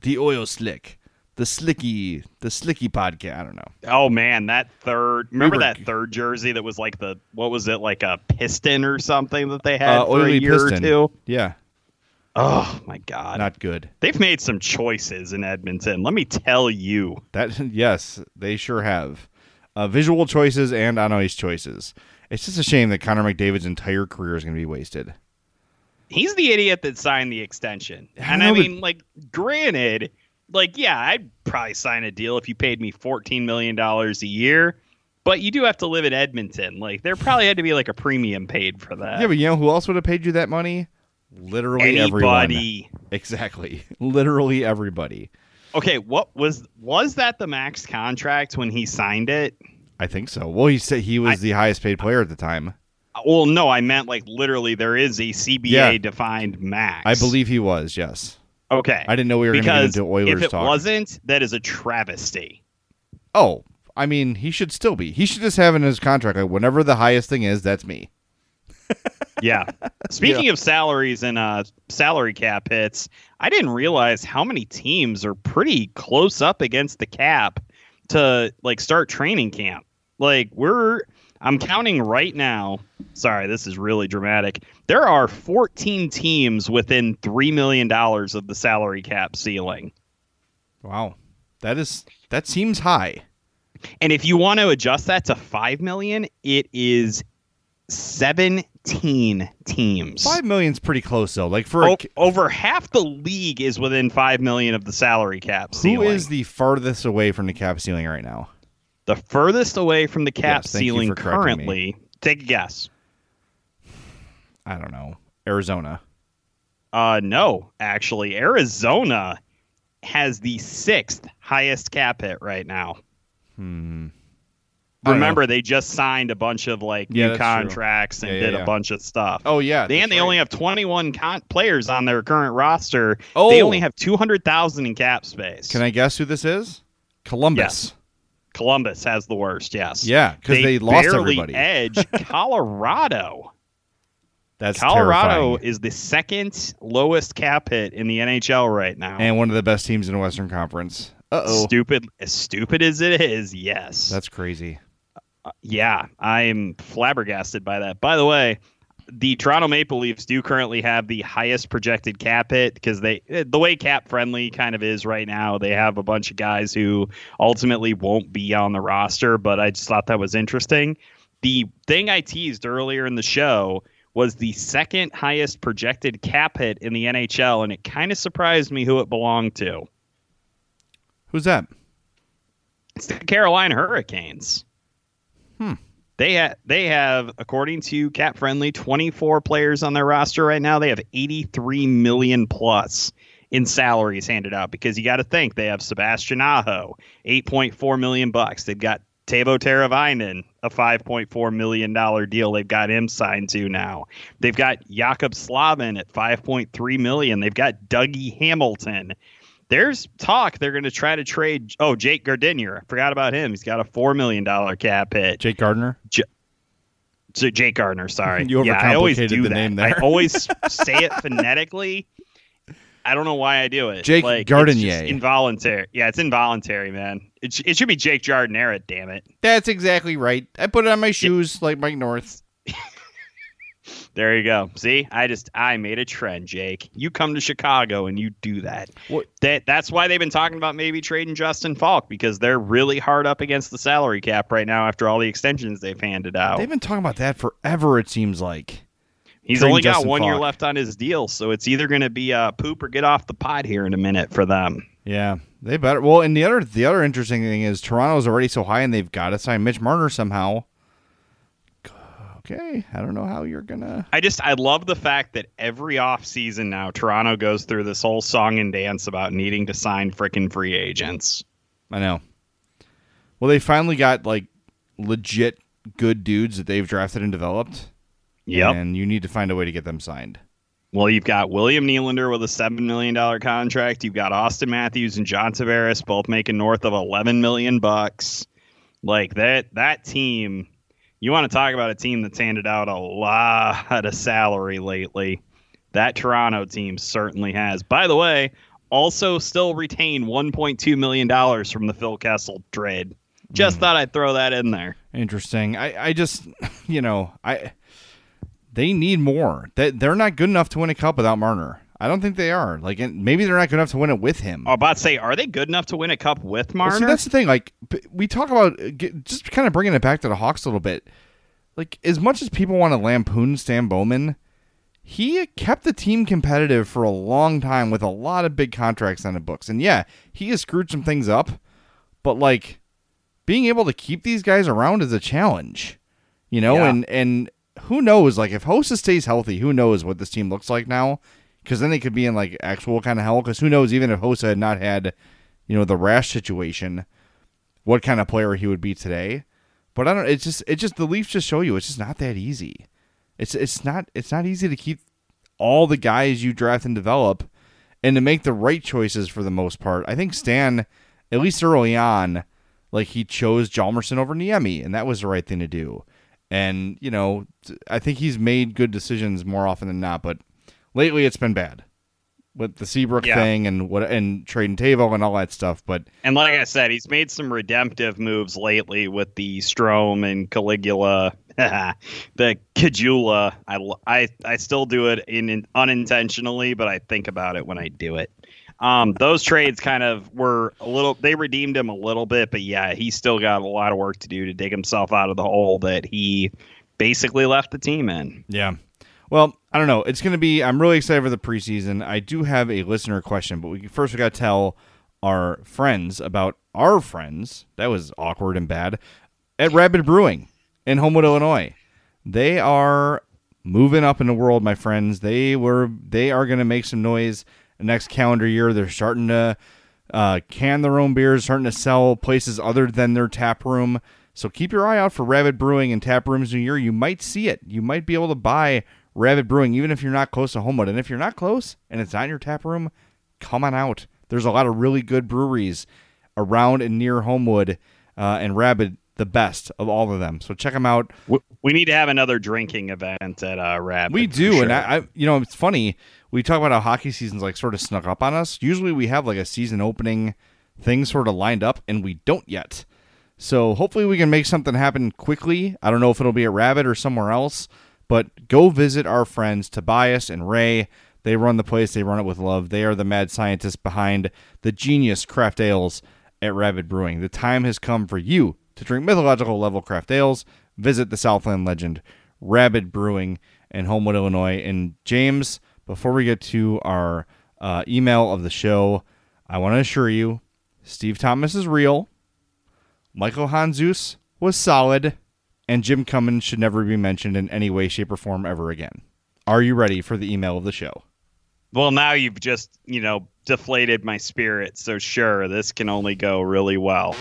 The oil slick. The slicky podcast. I don't know. Oh man, that third jersey that was like what was it, like a piston or something that they had for a year piston. or two? Yeah. Oh my God. Not good. They've made some choices in Edmonton. Let me tell you. Yes, they sure have. Visual choices and on ice choices. It's just a shame that Connor McDavid's entire career is going to be wasted. He's the idiot that signed the extension. And I mean, like, granted, like, yeah, I'd probably sign a deal if you paid me $14 million a year, but you do have to live in Edmonton. Like, there probably had to be like a premium paid for that. Yeah, but you know who else would have paid you that money? Literally anybody. Everyone. Exactly. Literally everybody. Okay, what was that the max contract when he signed it? I think so. Well, he said he was the highest paid player at the time. Well, no, I meant like literally there is a CBA defined max. I believe he was, yes. Okay. I didn't know we were going to get into Oilers if it talk. wasn't, that is a travesty. Oh, I mean, he should still be. He should just have in his contract, like, whenever the highest thing is, that's me. Yeah. Speaking of salaries and salary cap hits, I didn't realize how many teams are pretty close up against the cap to like start training camp. Like I'm counting right now. Sorry, this is really dramatic. There are 14 teams within $3 million of the salary cap ceiling. Wow. That seems high. And if you want to adjust that to $5 million, it is 17 teams. $5 million's pretty close though. Like for over half the league is within $5 million of the salary cap ceiling. Who is the farthest away from the cap ceiling right now? The furthest away from the cap ceiling currently, take a guess. I don't know. Arizona. No, actually. Arizona has the 6th highest cap hit right now. Remember, they just signed a bunch of like new contracts and did a bunch of stuff. Oh, yeah. They only have 21 players on their current roster. Oh. They only have 200,000 in cap space. Can I guess who this is? Columbus. Yes. Columbus has the worst, yes. Yeah, because they lost everybody. Edge Colorado. That's Colorado terrifying. is the 2nd lowest cap hit in the NHL right now. And one of the best teams in the Western Conference. Uh-oh. As stupid as it is, yes. That's crazy. Yeah, I'm flabbergasted by that. By the way, the Toronto Maple Leafs do currently have the highest projected cap hit because the way cap friendly kind of is right now, they have a bunch of guys who ultimately won't be on the roster, but I just thought that was interesting. The thing I teased earlier in the show was the 2nd highest projected cap hit in the NHL, and it kind of surprised me who it belonged to. Who's that? It's the Carolina Hurricanes. They have, according to Cap Friendly, 24 players on their roster right now. They have 83 million plus in salaries handed out because you got to think they have Sebastian Aho, $8.4 million. They've got Teuvo Teravainen, a $5.4 million deal. They've got him signed to now. They've got Jakob Slavin at $5.3 million. They've got Dougie Hamilton. There's talk they're going to try to trade. Oh, Jake Gardiner. I forgot about him. He's got a $4 million cap hit. Jake Gardiner? Jake Gardiner, sorry. You overcomplicated I always do the that. name there. I always say it phonetically. I don't know why I do it. Jake Gardiner. It's just involuntary. Yeah, it's involuntary, man. It should be Jake Jardinera, damn it. That's exactly right. I put it on my shoes like Mike North. There you go. See, I made a trend, Jake. You come to Chicago and you do that. That's why they've been talking about maybe trading Justin Falk, because they're really hard up against the salary cap right now after all the extensions they've handed out. They've been talking about that forever, it seems like. He's only got 1 year left on his deal, so it's either going to be poop or get off the pot here in a minute for them. Yeah, they better. Well, and the other interesting thing is Toronto's already so high, and they've got to sign Mitch Marner somehow. Okay, I don't know how you're gonna. I love the fact that every offseason now Toronto goes through this whole song and dance about needing to sign frickin' free agents. I know. Well, they finally got like legit good dudes that they've drafted and developed. Yep. And you need to find a way to get them signed. Well, you've got William Nylander with a $7 million contract. You've got Austin Matthews and John Tavares both making north of $11 million. Like that team. You want to talk about a team that's handed out a lot of salary lately. That Toronto team certainly has. By the way, Also still retain $1.2 million from the Phil Kessel trade. Just thought I'd throw that in there. Interesting. I just, they need more. They're not good enough to win a cup without Marner. I don't think they are. Like, maybe they're not good enough to win it with him. I was about to say, are they good enough to win a cup with Marner? Well, see, that's the thing. Like, we talk about just kind of bringing it back to the Hawks a little bit. Like, as much as people want to lampoon Stan Bowman, he kept the team competitive for a long time with a lot of big contracts on the books. And yeah, he has screwed some things up, but like being able to keep these guys around is a challenge, and who knows, like if Hossa stays healthy, who knows what this team looks like now? Because then they could be in like actual kind of hell. Because who knows, even if Hossa had not had, the rash situation, what kind of player he would be today. But I don't. It's just the Leafs just show you it's just not that easy. It's not easy to keep all the guys you draft and develop, and to make the right choices for the most part. I think Stan, at least early on, like he chose Hjalmarsson over Niemi, and that was the right thing to do. And I think he's made good decisions more often than not. But lately, it's been bad with the Seabrook thing and trading Tavo and all that stuff. And like I said, he's made some redemptive moves lately with the Strome and Caligula. The Kajula, I still do it unintentionally, but I think about it when I do it. Those trades kind of were they redeemed him a little bit, but yeah, he's still got a lot of work to do to dig himself out of the hole that he basically left the team in. Yeah. Well, I don't know. It's going to be, I'm really excited for the preseason. I do have a listener question, but we got to tell our friends about our friends. That was awkward and bad. At Rabid Brewing in Homewood, Illinois. They are moving up in the world, my friends. They are going to make some noise next calendar year. They're starting to can their own beers, starting to sell places other than their tap room. So keep your eye out for Rabid Brewing and tap rooms new year. You might see it. You might be able to buy Rabid Brewing, even if you're not close to Homewood. And if you're not close and it's not in your tap room, come on out. There's a lot of really good breweries around and near Homewood, and Rabid, the best of all of them. So check them out. We need to have another drinking event at Rabid. We do, sure. And I it's funny. We talk about how hockey season's like sort of snuck up on us. Usually we have like a season opening thing sort of lined up, and we don't yet. So hopefully we can make something happen quickly. I don't know if it'll be at Rabid or somewhere else, but go visit our friends Tobias and Ray. They run the place. They run it with love. They are the mad scientists behind the genius craft ales at Rabid Brewing. The time has come for you to drink mythological level craft ales. Visit the Southland legend, Rabid Brewing in Homewood, Illinois. And James, before we get to our email of the show, I want to assure you, Steve Thomas is real. Michael Handzus was solid. And Jim Cummins should never be mentioned in any way, shape, or form ever again. Are you ready for the email of the show? Well, now you've just, deflated my spirit. So sure, this can only go really well.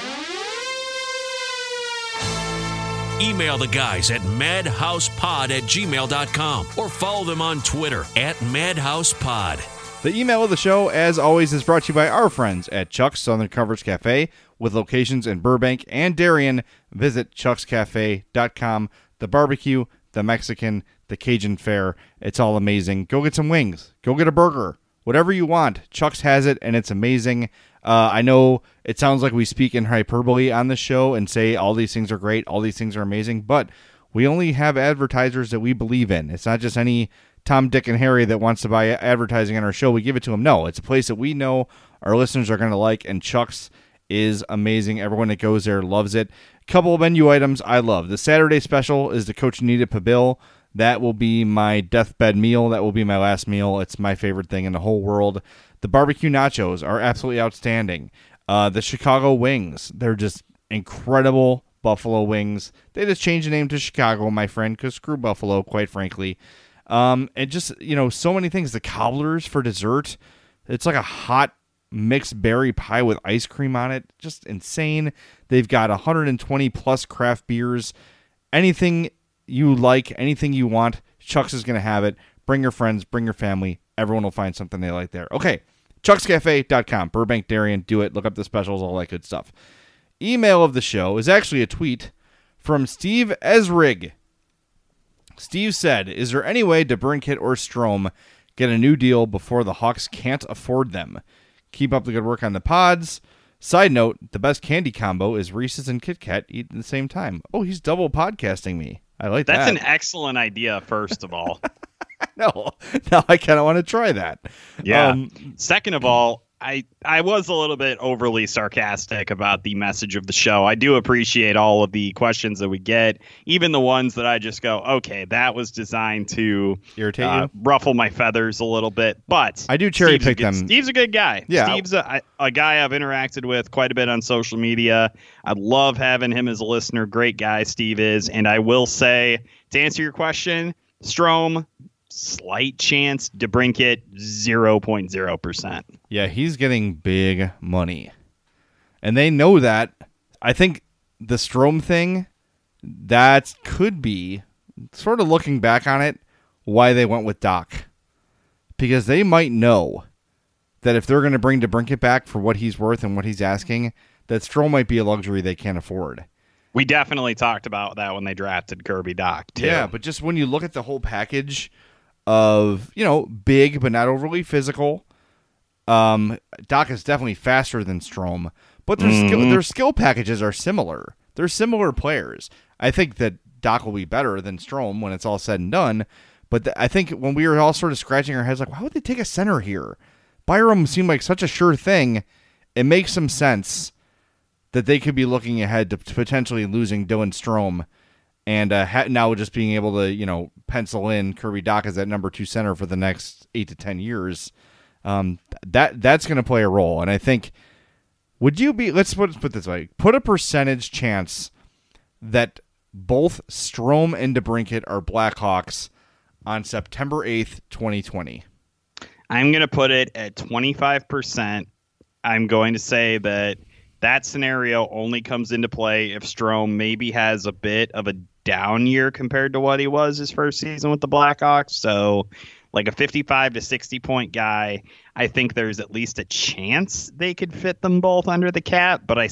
Email the guys at madhousepod@gmail.com or follow them on Twitter @madhousepod. The email of the show, as always, is brought to you by our friends at Chuck's Southern Comforts Cafe, with locations in Burbank and Darien. Visit chuckscafe.com. The barbecue, the Mexican, the Cajun fare, it's all amazing. Go get some wings. Go get a burger. Whatever you want, Chuck's has it, and it's amazing. I know it sounds like we speak in hyperbole on the show and say all these things are great, all these things are amazing, but we only have advertisers that we believe in. It's not just any Tom, Dick, and Harry that wants to buy advertising on our show. We give it to them. No, it's a place that we know our listeners are going to like, and Chuck's is amazing. Everyone that goes there loves it. A couple of menu items I love. The Saturday special is the Cochinita Pibil. That will be my deathbed meal. That will be my last meal. It's my favorite thing in the whole world. The barbecue nachos are absolutely outstanding. The Chicago wings, they're just incredible buffalo wings. They just changed the name to Chicago, my friend, because screw Buffalo, quite frankly. And just, so many things. The cobblers for dessert. It's like a hot mixed berry pie with ice cream on it. Just insane. They've got 120 plus craft beers. Anything you like, anything you want, Chuck's is going to have it. Bring your friends, bring your family. Everyone will find something they like there. Okay, chuckscafe.com, Burbank, Darien, do it. Look up the specials, all that good stuff. Email of the show is actually a tweet from Steve Esrig. Steve said, is there any way DeBrincat or Strome get a new deal before the Hawks can't afford them. Keep up the good work on the pods. Side note, the best candy combo is Reese's and Kit Kat eaten at the same time. Oh, he's double podcasting me. I like that. That's an excellent idea, first of all. No, now I kind of want to try that. Yeah. Second of all, I was a little bit overly sarcastic about the message of the show. I do appreciate all of the questions that we get, even the ones that I just go, okay, that was designed to irritate you, ruffle my feathers a little bit. But I do cherry pick them. Steve's a good guy. Yeah. Steve's a guy I've interacted with quite a bit on social media. I love having him as a listener. Great guy Steve is. And I will say, to answer your question, Strome, slight chance. DeBrincat, 0.0%. Yeah, he's getting big money. And they know that. I think the Strome thing, that could be, sort of looking back on it, why they went with Doc. Because they might know that if they're going to bring DeBrincat back for what he's worth and what he's asking, that Strome might be a luxury they can't afford. We definitely talked about that when they drafted Kirby Doc, too. Yeah, but just when you look at the whole package of, big but not overly physical, Doc is definitely faster than Strome, but their skill packages are similar. They're similar players. I think that Doc will be better than Strome when it's all said and done, but I think when we were all sort of scratching our heads like, why would they take a center here? Byram seemed like such a sure thing. It makes some sense that they could be looking ahead to potentially losing Dylan Strome and now just being able to, pencil in Kirby Doc as that number 2 center for the next 8 to 10 years. That's going to play a role. And I think, let's put it this way, put a percentage chance that both Strome and DeBrincat are Blackhawks on September 8th, 2020. I'm going to put it at 25%. I'm going to say that scenario only comes into play if Strome maybe has a bit of a down year compared to what he was his first season with the Blackhawks. So like a 55 to 60 point guy, I think there's at least a chance they could fit them both under the cap, but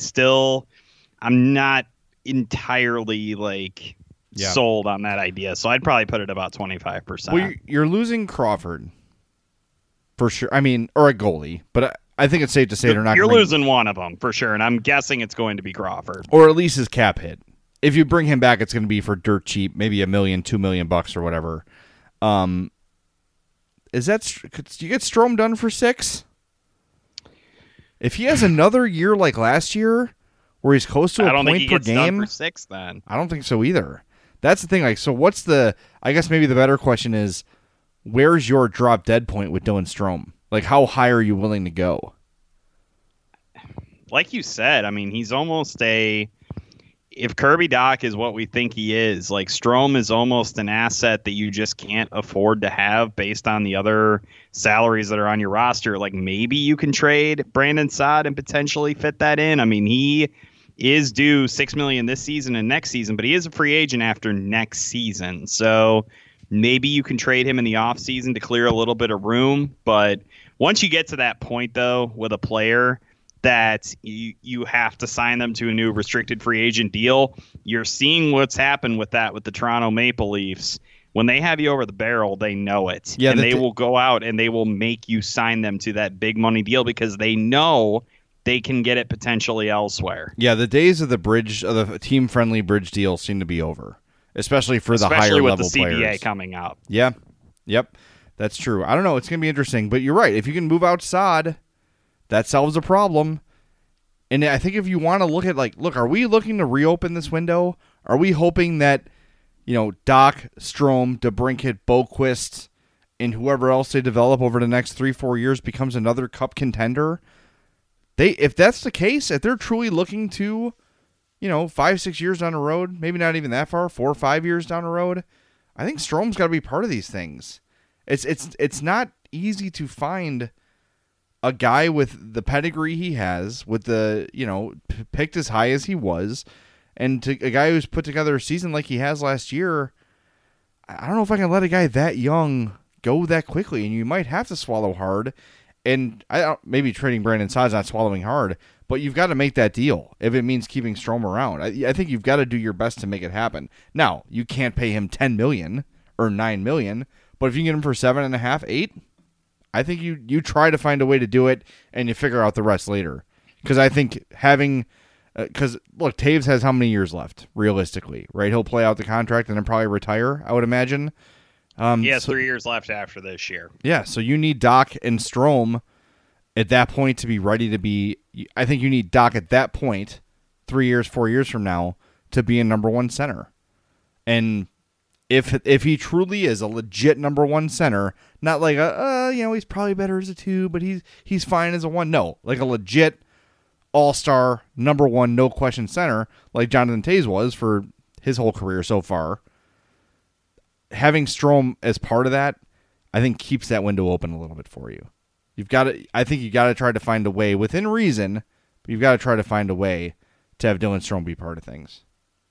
I'm not entirely sold on that idea. So I'd probably put it about 25%. Well, you're losing Crawford for sure. I mean, or a goalie, but I think it's safe to say they're not. You're losing one of them for sure, and I'm guessing it's going to be Crawford, or at least his cap hit. If you bring him back, it's going to be for dirt cheap, maybe $1 million, $2 million or whatever. Is that? Do you get Strome done for 6? If he has another year like last year, where he's close to a point per game, I don't think he gets done for 6. Then I don't think so either. That's the thing. So what's the? I guess maybe the better question is, where's your drop dead point with Dylan Strome? How high are you willing to go? Like you said, I mean, he's almost if Kirby Doc is what we think he is, Strome is almost an asset that you just can't afford to have based on the other salaries that are on your roster. Maybe you can trade Brandon Saad and potentially fit that in. I mean, he is due $6 million this season and next season, but he is a free agent after next season. So maybe you can trade him in the offseason to clear a little bit of room. But once you get to that point, though, with a player that you have to sign them to a new restricted free agent deal, you're seeing what's happened with that with the Toronto Maple Leafs. When they have you over the barrel, they know it. Yeah, and they will go out and they will make you sign them to that big money deal because they know they can get it potentially elsewhere. Yeah, the days of the team-friendly bridge deal seem to be over, especially for the higher level players. Especially with the CBA coming up. Yeah, yep, that's true. I don't know. It's going to be interesting, but you're right. If you can move out Saad, that solves a problem. And I think if you want to look at, are we looking to reopen this window? Are we hoping that, Doc, Strome, DeBrincat, Boquist, and whoever else they develop over the next 3-4 years becomes another cup contender? If that's the case, if they're truly looking to, 5-6 years down the road, maybe not even that far, 4 or 5 years down the road, I think Strome's got to be part of these things. It's not easy to find a guy with the pedigree he has, with the, picked as high as he was, and to a guy who's put together a season like he has last year. I don't know if I can let a guy that young go that quickly, and you might have to swallow hard. And maybe trading Brandon Saad's not swallowing hard, but you've got to make that deal if it means keeping Strome around. I think you've got to do your best to make it happen. Now, you can't pay him $10 million or $9 million, but if you can get him for $7.5, $8, I think you try to find a way to do it, and you figure out the rest later. Because I think because look, Taves has how many years left, realistically, right? He'll play out the contract and then probably retire, I would imagine. He has 3 years left after this year. Yeah, so you need Doc and Strome at that point to be ready to be. I think you need Doc at that point, 3 years, 4 years from now, to be a number one center. And if he truly is a legit number one center, not like he's probably better as a 2, but he's fine as a 1. No, like a legit all-star number 1, no question center, like Jonathan Toews was for his whole career so far. Having Strome as part of that, I think keeps that window open a little bit for you. I think you got to try to find a way within reason, but you've got to try to find a way to have Dylan Strome be part of things.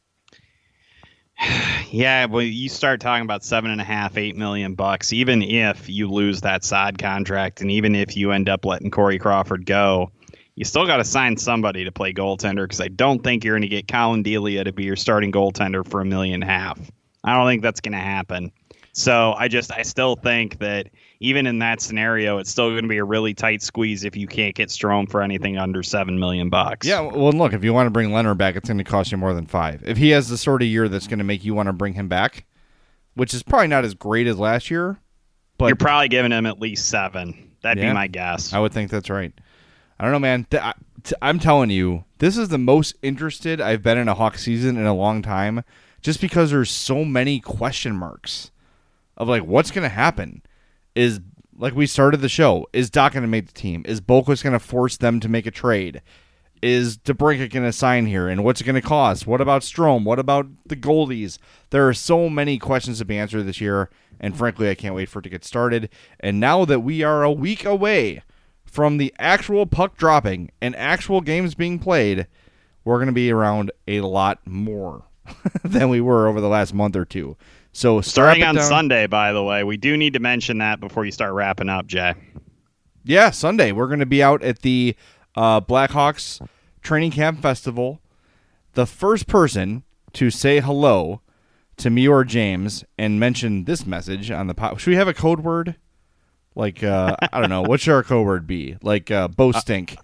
Yeah, well, you start talking about $7.5-8 million bucks, even if you lose that Saad contract, and even if you end up letting Corey Crawford go, you still got to sign somebody to play goaltender, because I don't think you're going to get Colin Delia to be your starting goaltender for $1.5 million. I don't think that's going to happen. So I still think that even in that scenario, it's still going to be a really tight squeeze if you can't get Strome for anything under $7 million bucks. Yeah, well, look, if you want to bring Leonard back, it's going to cost you more than $5 million. If he has the sort of year that's going to make you want to bring him back, which is probably not as great as last year, but you're probably giving him at least $7 million. That'd be my guess. I would think that's right. I don't know, man. I'm telling you, this is the most interested I've been in a Hawks season in a long time, just because there's so many question marks of like what's going to happen. Is, like we started the show, is Doc going to make the team? Is Boqvist going to force them to make a trade? Is DeBrincat going to sign here? And what's it going to cost? What about Strome? What about the goalies? There are so many questions to be answered this year, and frankly, I can't wait for it to get started. And now that we are a week away from the actual puck dropping and actual games being played, we're going to be around a lot more than we were over the last month or two. So starting on Sunday, by the way, we do need to mention that before you start wrapping up, Jay. Yeah, Sunday. We're going to be out at the Blackhawks Training Camp Festival. The first person to say hello to me or James and mention this message on the pod. Should we have a code word? Like, I don't know. What should our code word be? Like, Bo Stink.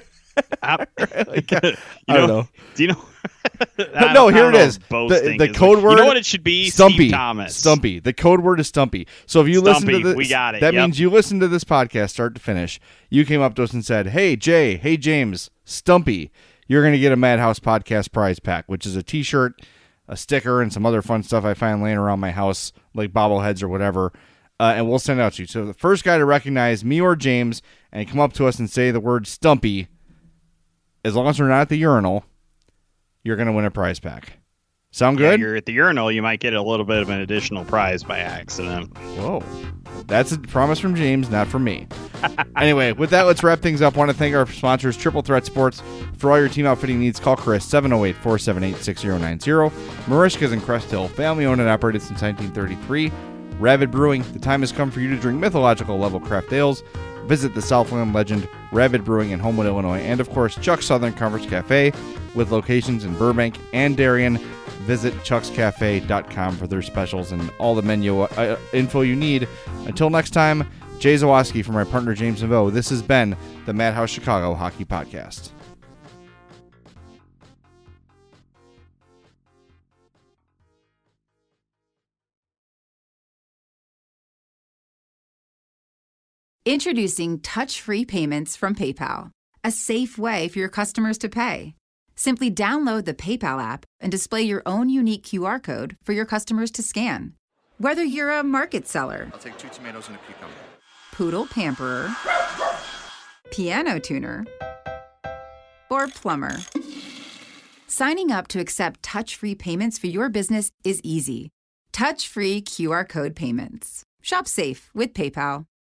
I don't know. Do you know? No, here it is. The code word. You know what it should be? Stumpy. Steve Thomas. Stumpy. The code word is Stumpy. So if you listen to this, we got it. That means you listen to this podcast start to finish. You came up to us and said, "Hey Jay, hey James, Stumpy, you're going to get a Madhouse Podcast prize pack, which is a T-shirt, a sticker, and some other fun stuff I find laying around my house, like bobbleheads or whatever." And we'll send it out to you. So the first guy to recognize me or James and come up to us and say the word Stumpy, as long as we're not at the urinal, you're going to win a prize pack. Sound good? Yeah, you're at the urinal, you might get a little bit of an additional prize by accident. Whoa. That's a promise from James, not from me. Anyway, with that, let's wrap things up. I want to thank our sponsors, Triple Threat Sports. For all your team outfitting needs, call Chris, 708-478-6090. Marishka's in Crest Hill, family-owned and operated since 1933. Ravid Brewing, the time has come for you to drink mythological level craft ales. Visit the Southland legend, Ravid Brewing in Homewood, Illinois. And, of course, Chuck's Southern Comforts Cafe with locations in Burbank and Darien. Visit chuckscafe.com for their specials and all the menu info you need. Until next time, Jay Zawoski for my partner James Naveau. This has been the Madhouse Chicago Hockey Podcast. Introducing touch-free payments from PayPal, a safe way for your customers to pay. Simply download the PayPal app and display your own unique QR code for your customers to scan. Whether you're a market seller, I'll take 2 tomatoes and a cucumber, poodle pamperer, piano tuner, or plumber, signing up to accept touch-free payments for your business is easy. Touch-free QR code payments. Shop safe with PayPal.